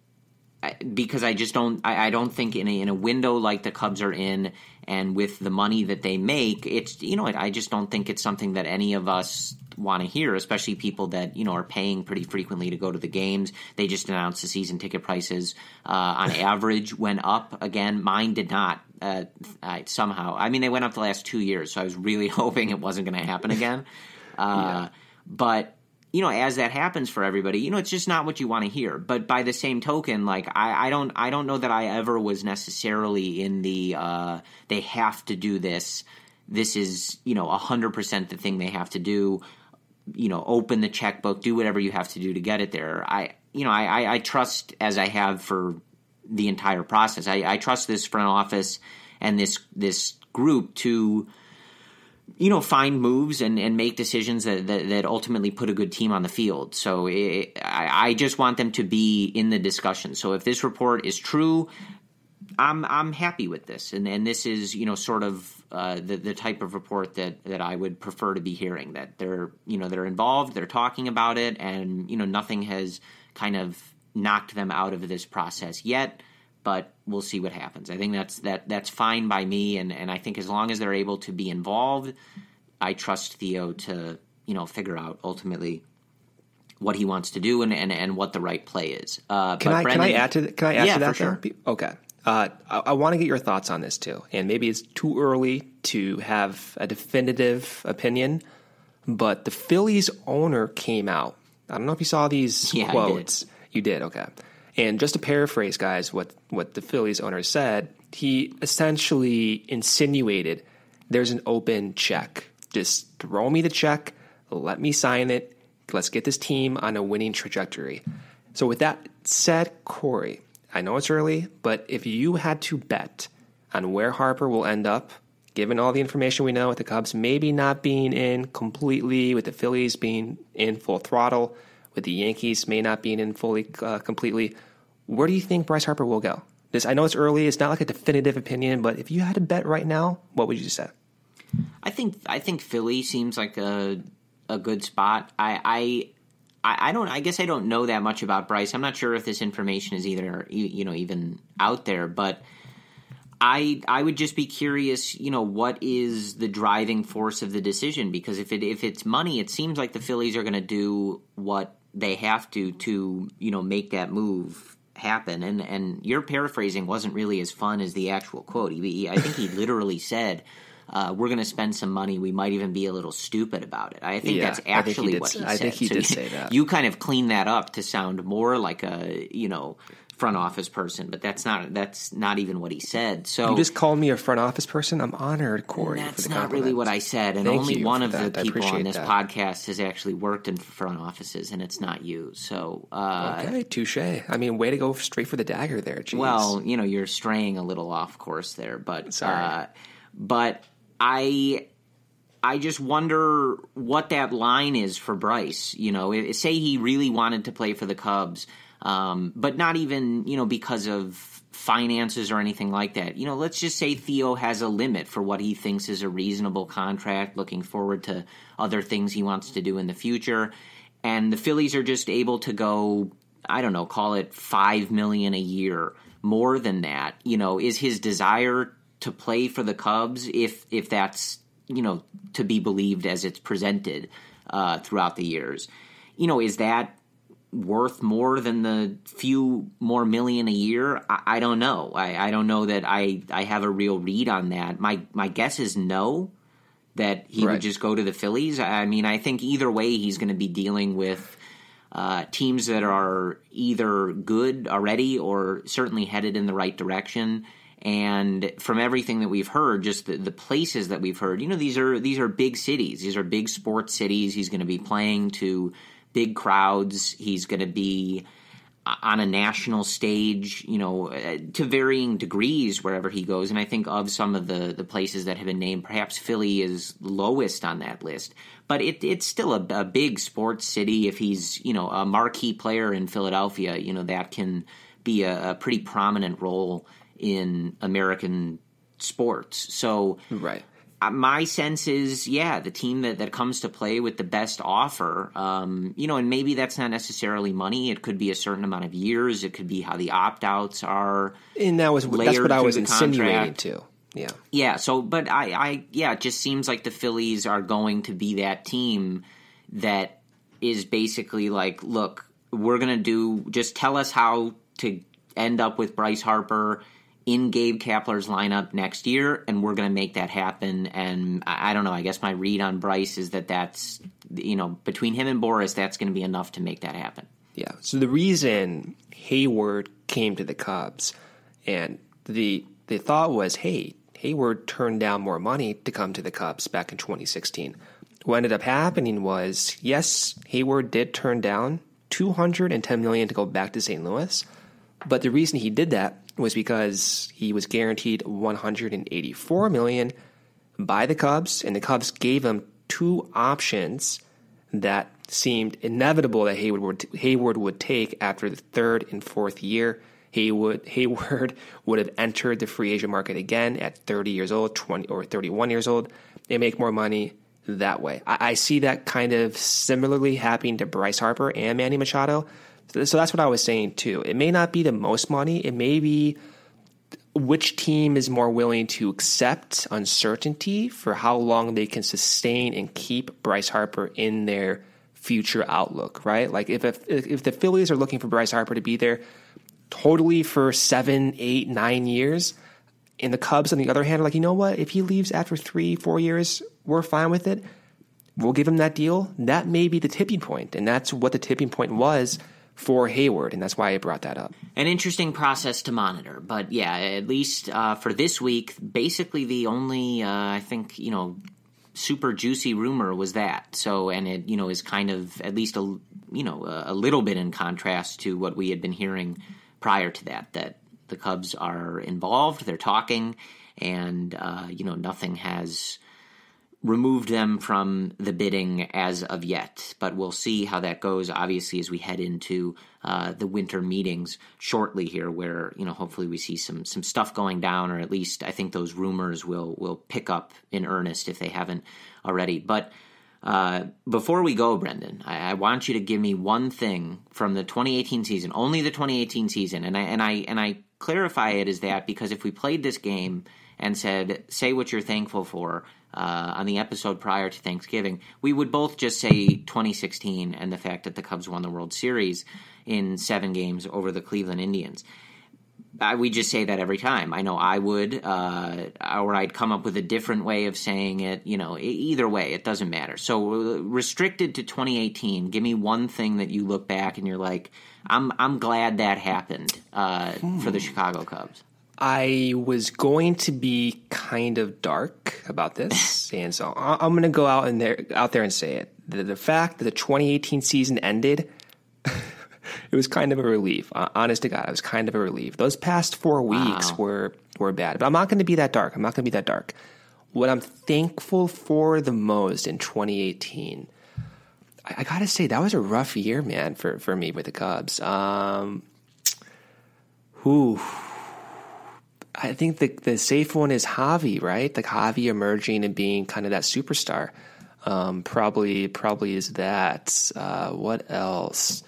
because I just don't, I, I don't think in a, in a window like the Cubs are in and with the money that they make, it's, you know, I just don't think it's something that any of us want to hear, especially people that, you know, are paying pretty frequently to go to the games. They just announced the season ticket prices uh, on average went up again. Mine did not uh, I, somehow. I mean, they went up the last two years, so I was really hoping it wasn't going to happen again. Uh, yeah. But, you know, as that happens for everybody, you know, it's just not what you want to hear. But by the same token, like, I, I don't I don't know that I ever was necessarily in the uh, they have to do this. This is, you know, one hundred percent the thing they have to do. You know, open the checkbook, do whatever you have to do to get it there. I, you know, I, I trust, as I have for the entire process, I, I trust this front office and this this group to, you know, find moves and, and make decisions that, that, that ultimately put a good team on the field. So it, I, I just want them to be in the discussion. So if this report is true, I'm I'm happy with this, and and this is, you know, sort of uh, the the type of report that, that I would prefer to be hearing. That they're, you know, they're involved, they're talking about it, and, you know, nothing has kind of knocked them out of this process yet. But we'll see what happens. I think that's that that's fine by me, and, and I think as long as they're able to be involved, I trust Theo to, you know, figure out ultimately what he wants to do and, and, and what the right play is. Uh, can but I Brendan, can I add to can I add yeah, to that? For sure. Okay. Uh, I, I want to get your thoughts on this too, and maybe it's too early to have a definitive opinion, but the Phillies owner came out. I don't know if you saw these yeah, quotes. I did. You did, okay. And just to paraphrase, guys, what, what the Phillies owner said, he essentially insinuated there's an open check. Just throw me the check, let me sign it, let's get this team on a winning trajectory. So with that said, Corey, I know it's early, but if you had to bet on where Harper will end up, given all the information we know with the Cubs maybe not being in completely, with the Phillies being in full throttle, with the Yankees may not being in fully uh, completely, where do you think Bryce Harper will go? This, I know it's early, it's not like a definitive opinion, but if you had to bet right now, what would you say? I think I think Philly seems like a a good spot. I I I, I don't. I guess I don't know that much about Bryce. I'm not sure if this information is either you know even out there, but I I would just be curious. You know, what is the driving force of the decision? Because if it if it's money, it seems like the Phillies are going to do what they have to to you know make that move happen. And and your paraphrasing wasn't really as fun as the actual quote. He, he, I think he literally said, Uh, we're going to spend some money. We might even be a little stupid about it. I think yeah, that's actually he what he I said. think he so did you, say that. You kind of cleaned that up to sound more like a, you know, front office person, but that's not that's not even what he said. So you just called me a front office person? I'm honored, Corey. That's for the not really what I said. And Thank only one of that. the I people on this that. podcast has actually worked in front offices, and it's not you. So uh, okay, touche. I mean, way to go straight for the dagger there. Jeez. Well, you know, you're straying a little off course there, but Sorry. Uh, but I. I just wonder what that line is for Bryce. You know, say he really wanted to play for the Cubs, um, but not even, you know, because of finances or anything like that. You know, let's just say Theo has a limit for what he thinks is a reasonable contract, looking forward to other things he wants to do in the future. And the Phillies are just able to go, I don't know, call it five million dollars a year, more than that. You know, is his desire to play for the Cubs, if if that's, you know, to be believed as it's presented uh, throughout the years, you know, is that worth more than the few more million a year? I, I don't know. I, I don't know that I, I have a real read on that. My my guess is no, that he right. would just go to the Phillies. I mean, I think either way he's going to be dealing with uh, teams that are either good already or certainly headed in the right direction. And from everything that we've heard, just the, the places that we've heard, you know, these are these are big cities. These are big sports cities. He's going to be playing to big crowds. He's going to be on a national stage, you know, to varying degrees wherever he goes. And I think of some of the, the places that have been named, perhaps Philly is lowest on that list. But it, it's still a, a big sports city. If he's, you know, a marquee player in Philadelphia, you know, that can be a, a pretty prominent role in American sports. So right. uh, my sense is, yeah, the team that, that comes to play with the best offer, um, you know, and maybe that's not necessarily money. It could be a certain amount of years. It could be how the opt-outs are. And that was that's what I was insinuating too. Yeah. Yeah. So, but I, I, yeah, it just seems like the Phillies are going to be that team that is basically like, look, we're going to do, just tell us how to end up with Bryce Harper in Gabe Kapler's lineup next year, and we're going to make that happen. And I, I don't know, I guess my read on Bryce is that that's, you know, between him and Boris, that's going to be enough to make that happen. Yeah. So the reason Hayward came to the Cubs, and the the thought was, hey, Hayward turned down more money to come to the Cubs back in twenty sixteen. What ended up happening was, yes, Hayward did turn down two hundred ten million dollars to go back to Saint Louis, but the reason he did that was because he was guaranteed one hundred eighty-four million dollars by the Cubs, and the Cubs gave him two options that seemed inevitable that Hayward would, Hayward would take after the third and fourth year. Hayward, Hayward would have entered the free agent market again at thirty years old, twenty or thirty-one years old. They make more money that way. I, I see that kind of similarly happening to Bryce Harper and Manny Machado. So, so that's what I was saying too. It may not be the most money. It may be which team is more willing to accept uncertainty for how long they can sustain and keep Bryce Harper in their future outlook, right? Like if if, if the Phillies are looking for Bryce Harper to be there totally for seven, eight, nine years, and the Cubs, on the other hand, are like, you know what? If he leaves after three, four years, we're fine with it. We'll give him that deal. That may be the tipping point, and that's what the tipping point was for Hayward, and that's why I brought that up. An interesting process to monitor, but yeah, at least uh, for this week, basically the only, uh, I think, you know, super juicy rumor was that. So, and it, you know, is kind of at least a, you know, a, a little bit in contrast to what we had been hearing prior to that, that the Cubs are involved, they're talking, and, uh, you know, nothing has removed them from the bidding as of yet. But we'll see how that goes, obviously, as we head into uh, the winter meetings shortly here, where, you know, hopefully we see some some stuff going down, or at least I think those rumors will will pick up in earnest if they haven't already. But Uh, before we go, Brendan, I, I want you to give me one thing from the twenty eighteen season, only the twenty eighteen season, and I and I and I clarify it as that because if we played this game and said, say what you're thankful for uh, on the episode prior to Thanksgiving, we would both just say twenty sixteen and the fact that the Cubs won the World Series in seven games over the Cleveland Indians. I, we just say that every time. I know I would, uh, or I'd come up with a different way of saying it. You know, either way, it doesn't matter. So uh, restricted to twenty eighteen, give me one thing that you look back and you're like, I'm I'm glad that happened uh, hmm. for the Chicago Cubs. I was going to be kind of dark about this, and so I'm going to go out and there out there and say it. The, the fact that the twenty eighteen season ended. It was kind of a relief. Uh, honest to God, it was kind of a relief. Those past four weeks wow. were were bad, but I'm not going to be that dark. I'm not going to be that dark. What I'm thankful for the most in twenty eighteen, I, I got to say, that was a rough year, man, for, for me with the Cubs. Um, whew. I think the the safe one is Javi, right? Like Javi emerging and being kind of that superstar. Um, probably probably is that. Uh, what else?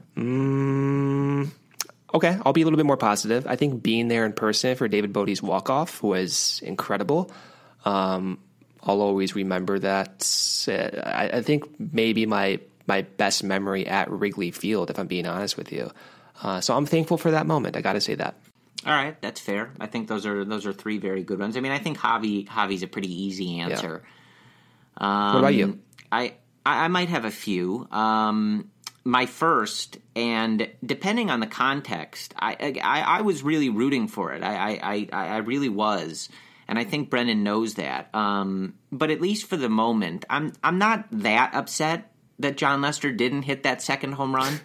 Mm, okay, I'll be a little bit more positive. I think being there in person for David Bodie's walk-off was incredible. Um, I'll always remember that. I, I think maybe my my best memory at Wrigley Field, if I'm being honest with you. Uh, so I'm thankful for that moment. I got to say that. All right, that's fair. I think those are those are three very good ones. I mean, I think Javi Javi's a pretty easy answer. Yeah. Um, what about you? I I might have a few. Um, My first, and depending on the context, I, I, I was really rooting for it. I, I, I really was, and I think Brendan knows that. Um, but at least for the moment, I'm I'm not that upset that Jon Lester didn't hit that second home run.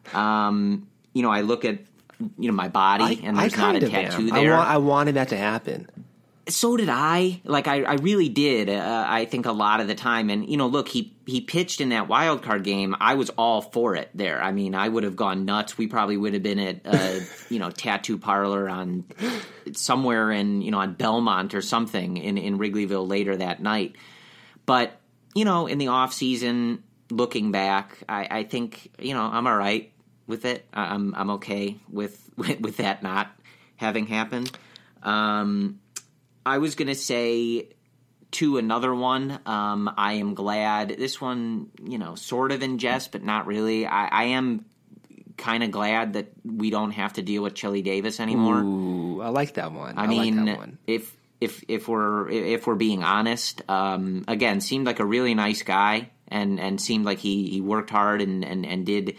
Um, you know, I look at you know my body, I, and there's not a tattoo am. there. I, wa- I wanted that to happen. So did I. Like, I, I really did, uh, I think, a lot of the time. And, you know, look, he, he pitched in that wild card game. I was all for it there. I mean, I would have gone nuts. We probably would have been at, a, you know, tattoo parlor on somewhere in, you know, on Belmont or something in, in Wrigleyville later that night. But, you know, in the off season, looking back, I, I think, you know, I'm all right with it. I'm I'm okay with, with, with that not having happened. Um I was going to say to another one, um, I am glad. This one, you know, sort of in jest, but not really. I, I am kind of glad that we don't have to deal with Chili Davis anymore. Ooh, I like that one. I, I mean, like that one. if if if we're if we're being honest, um, again, seemed like a really nice guy, and, and seemed like he, he worked hard and, and, and did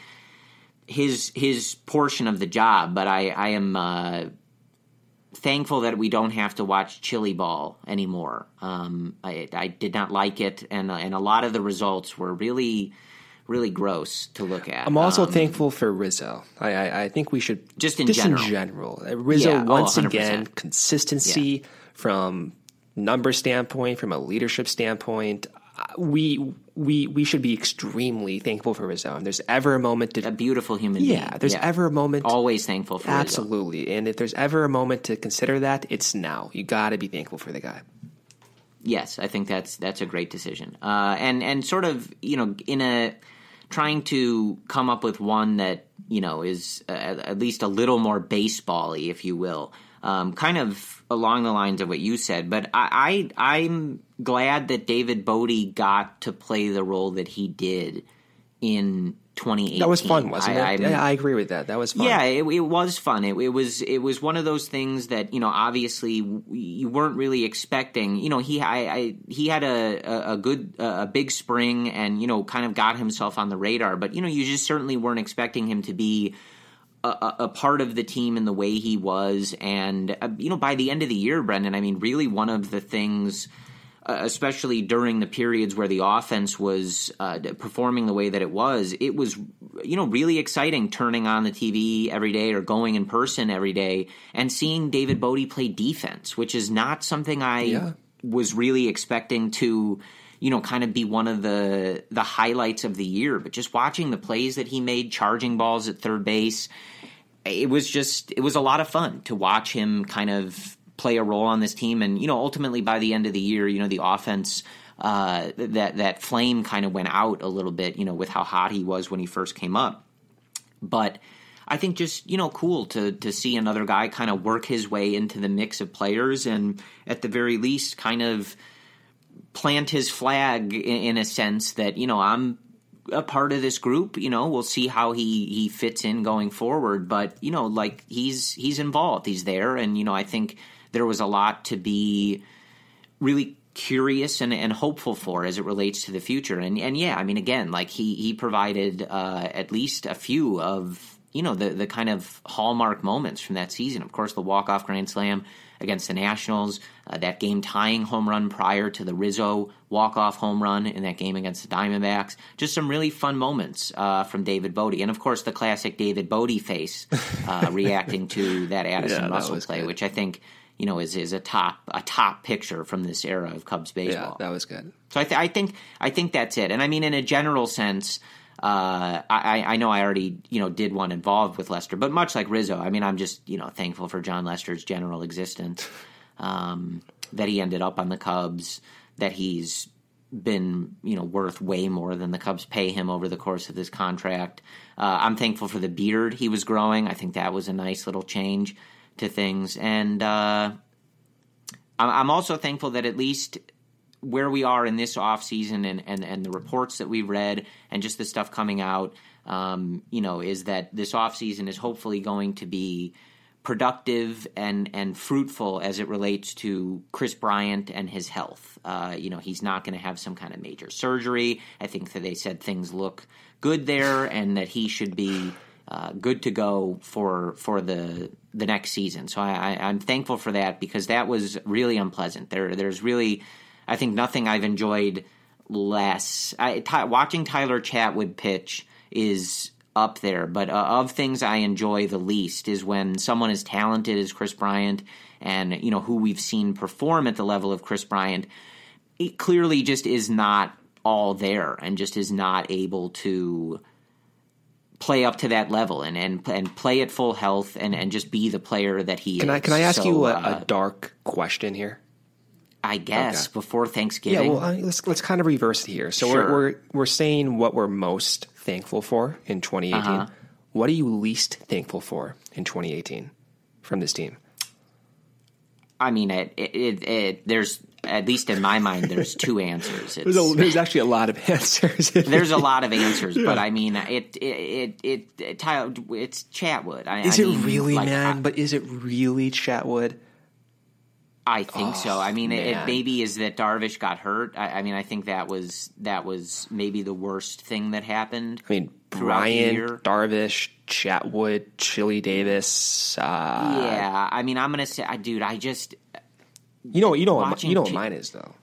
his his portion of the job. But I I am. Uh, thankful that we don't have to watch Chili Ball anymore. Um, I, I did not like it, and and a lot of the results were really, really gross to look at. I'm also um, thankful for Rizzo. I, I, I think we should just in just general. in general. Rizzo yeah, once oh, again consistency yeah. from number standpoint, from a leadership standpoint. We we we should be extremely thankful for Rizzo. And there's ever a moment to a beautiful human yeah, being. Yeah, there's ever a moment. Always thankful for absolutely. Rizzo. And if there's ever a moment to consider that, it's now. You got to be thankful for the guy. Yes, I think that's that's a great decision. Uh, and and sort of you know in a trying to come up with one that you know is uh, at least a little more baseball-y, if you will. Um, kind of along the lines of what you said, but I, I I'm glad that David Bodie got to play the role that he did in twenty eighteen. That was fun, wasn't I, it? I, yeah, I agree with that. That was fun. Yeah, it, it was fun. It, it was it was one of those things that you know obviously you weren't really expecting. You know, he I, I he had a, a, a good a big spring and you know kind of got himself on the radar, but you know you just certainly weren't expecting him to be A, a part of the team in the way he was. And, uh, you know, by the end of the year, Brendan, I mean, really one of the things, uh, especially during the periods where the offense was uh, performing the way that it was, it was, you know, really exciting turning on the T V every day or going in person every day and seeing David Bodie play defense, which is not something I yeah. was really expecting to you know, kind of be one of the the highlights of the year. But just watching the plays that he made, charging balls at third base, it was just it was a lot of fun to watch him kind of play a role on this team. And, you know, ultimately by the end of the year, you know, the offense uh, that that flame kind of went out a little bit, you know, with how hot he was when he first came up. But I think just, you know, cool to to see another guy kind of work his way into the mix of players and at the very least kind of plant his flag in, in a sense that, you know, I'm a part of this group, you know, we'll see how he, he fits in going forward. But, you know, like he's he's involved. He's there. And, you know, I think there was a lot to be really curious and, and hopeful for as it relates to the future. And, and yeah, I mean, again, like he, he provided uh, at least a few of, you know, the, the kind of hallmark moments from that season. Of course, the walk-off grand slam against the Nationals, uh, that game-tying home run prior to the Rizzo walk-off home run in that game against the Diamondbacks. Just some really fun moments uh, from David Bote. And, of course, the classic David Bote face uh, reacting to that Addison yeah, Russell that play, good. which I think, you know, is is a top a top picture from this era of Cubs baseball. Yeah, that was good. So I, th- I think I think that's it. And, I mean, in a general sense, Uh, I, I know I already, you know, did one involved with Lester, but much like Rizzo, I mean, I'm just, you know, thankful for John Lester's general existence, um, that he ended up on the Cubs, that he's been, you know, worth way more than the Cubs pay him over the course of this contract. Uh, I'm thankful for the beard he was growing. I think that was a nice little change to things. And uh, I'm also thankful that at least where we are in this offseason and, and, and the reports that we've read and just the stuff coming out, um, you know, is that this offseason is hopefully going to be productive and, and fruitful as it relates to Kris Bryant and his health. Uh, you know, he's not going to have some kind of major surgery. I think that they said things look good there and that he should be uh, good to go for for the the next season. So I, I, I'm thankful for that because that was really unpleasant. There, There's really... I think nothing I've enjoyed less. I, ty, watching Tyler Chatwood pitch is up there, but uh, of things I enjoy the least is when someone as talented as Kris Bryant and, you know, who we've seen perform at the level of Kris Bryant, it clearly just is not all there and just is not able to play up to that level and and, and play at full health and, and just be the player that he can is. I can I ask so, you a, uh, a dark question here? I guess okay. before Thanksgiving. Yeah, well, uh, let's let's kind of reverse it here. So Sure. we're, we're we're saying what we're most thankful for in twenty eighteen. Uh-huh. What are you least thankful for in twenty eighteen from this team? I mean, it, it, it, it, there's, at least in my mind, there's two answers. It's, There's, a, there's actually a lot of answers. there's a lot of answers, yeah. But I mean, it, it, it, it, it Tyler, it's Chatwood. I, Is I it mean, really, like, man? I, but is it really Chatwood? I think oh, so. I mean, it, man. it maybe is that Darvish got hurt. I, I mean, I think that was that was maybe the worst thing that happened. I mean, throughout the Bryant, year. Darvish, Chatwood, Chili Davis. Uh, yeah, I mean, I'm gonna say, I, dude, I just, you know, you know, what, Watching you know what Ch- mine is though.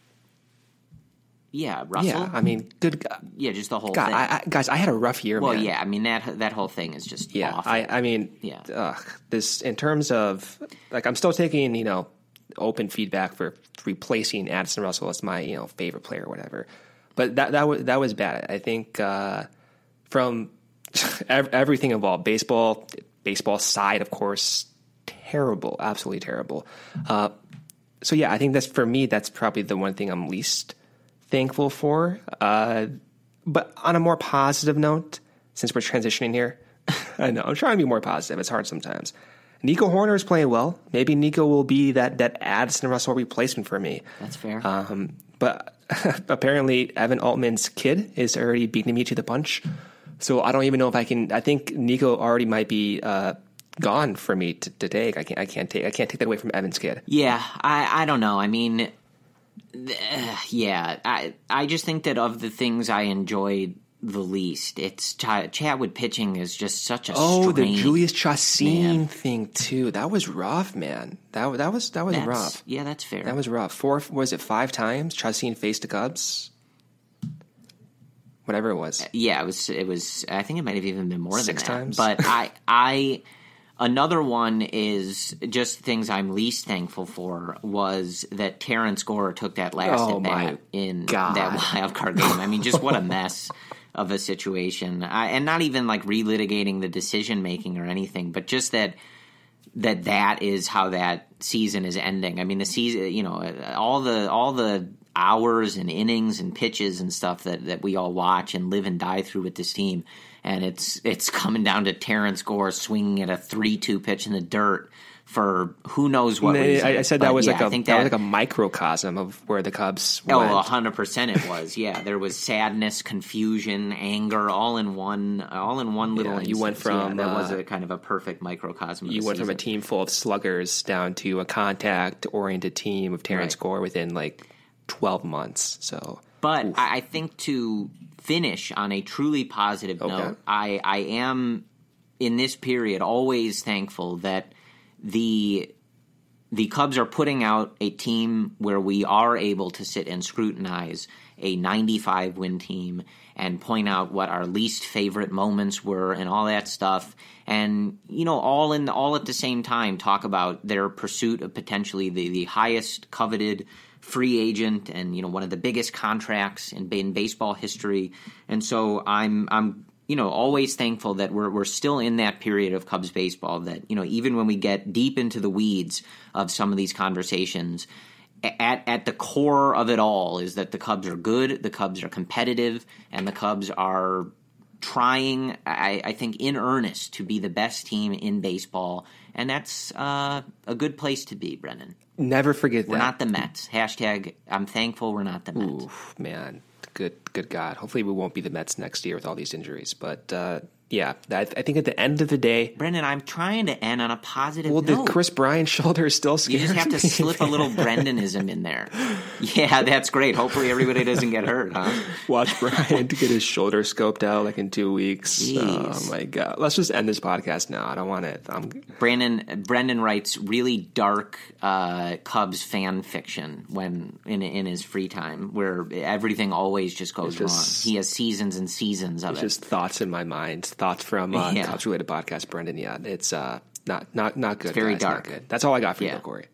yeah, Russell. Yeah, I mean, good God, yeah, just the whole God thing. I, I, guys, I had a rough year. well, man. yeah, I mean that that whole thing is just Yeah, awful. I, I mean, Yeah. ugh, this in terms of like, I'm still taking, you know, open feedback for replacing Addison Russell as my, you know, favorite player or whatever. But that that was that was bad. I think uh, from everything involved, baseball, baseball side, of course, terrible, absolutely terrible. Uh, so yeah, I think that's for me. That's probably the one thing I'm least thankful for. Uh, but on a more positive note, since we're transitioning here, I know I'm trying to be more positive. It's hard sometimes. Nico Hoerner is playing well. Maybe Nico will be that that Addison Russell replacement for me. That's fair. Um, but apparently, Evan Altman's kid is already beating me to the punch. So I don't even know if I can. I think Nico already might be uh, gone for me to, to take. I can't. I can't take. I can't take that away from Evan's kid. Yeah, I, I don't know. I mean, uh, yeah, I I just think that of the things I enjoyed the least, it's Ch- Chatwood pitching is just such a Oh, the strange, Julius Chassin man. thing too. That was rough, man. That that was that was That's, rough. Yeah, that's fair. That was rough. Four was it five times Chassin faced the Cubs? Whatever it was. Yeah, it was. It was. I think it might have even been more Six than that. times? But I, I, another one is just things I'm least thankful for was that Terrence Gore took that last Oh, at my bat in God. that wild card game. I mean, just what a mess of a situation. I, and not even like relitigating the decision making or anything, but just that that that is how that season is ending. I mean, the season. You know, all the all the hours and innings and pitches and stuff that, that we all watch and live and die through with this team. And it's it's coming down to Terrence Gore swinging at a three two pitch in the dirt for who knows what reason. I, I said but that was yeah, like a that, that was like a microcosm of where the Cubs oh, went. one hundred percent it was. Yeah, there was sadness, confusion, anger, all in one, all in one little. Yeah, instance. you went from yeah, that uh, was a kind of a perfect microcosm. Of you the went season. from a team full of sluggers down to a contact-oriented team of Terrence Right. Gore within like twelve months. So, but oof. I, I think to finish on a truly positive Okay. note, I, I am in this period always thankful that the. The Cubs are putting out a team where we are able to sit and scrutinize a ninety-five win team and point out what our least favorite moments were and all that stuff. And, you know, all in all at the same time talk about their pursuit of potentially the, the highest coveted free agent and, you know, one of the biggest contracts in, in baseball history. And so I'm I'm you know, always thankful that we're we're still in that period of Cubs baseball that, you know, even when we get deep into the weeds of some of these conversations, at at the core of it all is that the Cubs are good, the Cubs are competitive, and the Cubs are trying, I, I think, in earnest to be the best team in baseball. And that's uh, a good place to be, Brendan. Never forget We're that. not the Mets. Hashtag, I'm thankful we're not the Mets. Oof, man. Good, good God. Hopefully we won't be the Mets next year with all these injuries. But, uh, yeah, I, I think at the end of the day... Brendan, I'm trying to end on a positive well, note. the Chris Bryant shoulder is still scary. You just have to slip a little Brendanism in there. Yeah, that's great. Hopefully everybody doesn't get hurt, huh? Watch Bryant get his shoulder scoped out like in two weeks. Jeez. Oh, my God. Let's just end this podcast now. I don't want it. I'm... Brandon Brendan writes really dark uh, Cubs fan fiction when in in his free time, where everything always just goes just, wrong. He has seasons and seasons of it's it. just thoughts in my mind. Thoughts from uh, Yeah. Cubs related podcast, Brendan. Yeah, it's uh, not not not good. It's very guys, dark. Not good. That's all I got for Yeah. you, Corey.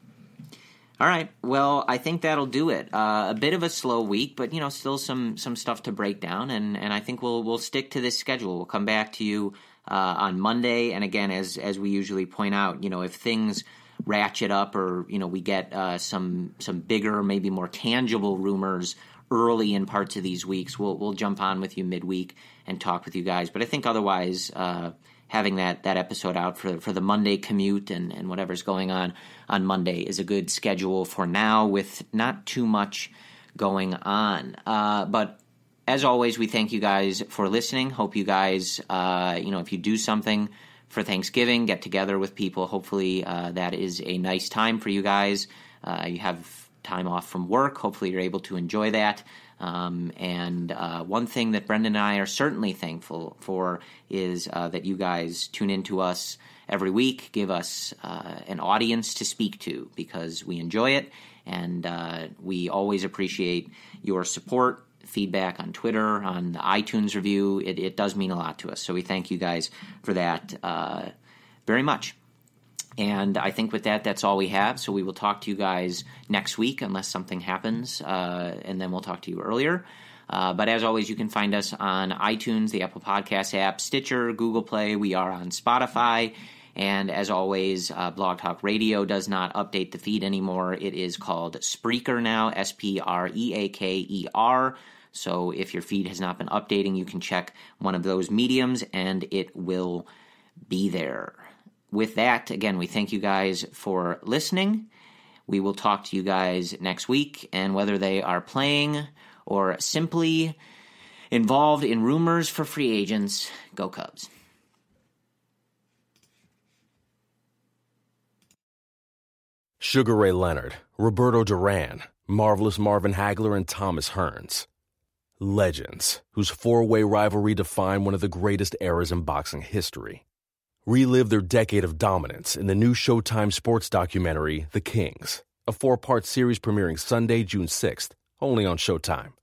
All right. Well, I think that'll do it. Uh, a bit of a slow week, but you know, still some some stuff to break down, and, and I think we'll we'll stick to this schedule. We'll come back to you uh, on Monday, and again, as as we usually point out, you know, if things ratchet up or you know we get uh, some some bigger, maybe more tangible rumors early in parts of these weeks, we'll we'll jump on with you midweek and talk with you guys. But I think otherwise, uh, having that, that episode out for for the Monday commute and, and whatever's going on on Monday is a good schedule for now with not too much going on. Uh, but as always, we thank you guys for listening. Hope you guys, uh, you know, if you do something for Thanksgiving, get together with people. Hopefully uh, that is a nice time for you guys. Uh, you have time off from work. Hopefully you're able to enjoy that. Um, and uh, one thing that Brendan and I are certainly thankful for is uh, that you guys tune in to us every week, give us uh, an audience to speak to because we enjoy it, and uh, we always appreciate your support, feedback on Twitter, on the iTunes review. It, it does mean a lot to us, so we thank you guys for that uh, very much. And I think with that, that's all we have. So we will talk to you guys next week unless something happens, uh, and then we'll talk to you earlier. Uh, but as always, you can find us on iTunes, the Apple Podcast app, Stitcher, Google Play. We are on Spotify. And as always, uh, Blog Talk Radio does not update the feed anymore. It is called Spreaker now, S P R E A K E R. So if your feed has not been updating, you can check one of those mediums, and it will be there. With that, again, we thank you guys for listening. We will talk to you guys next week, and whether they are playing or simply involved in rumors for free agents, go Cubs. Sugar Ray Leonard, Roberto Duran, Marvelous Marvin Hagler, and Thomas Hearns. Legends, whose four-way rivalry defined one of the greatest eras in boxing history. Relive their decade of dominance in the new Showtime sports documentary, The Kings, a four-part series premiering Sunday, June sixth, only on Showtime.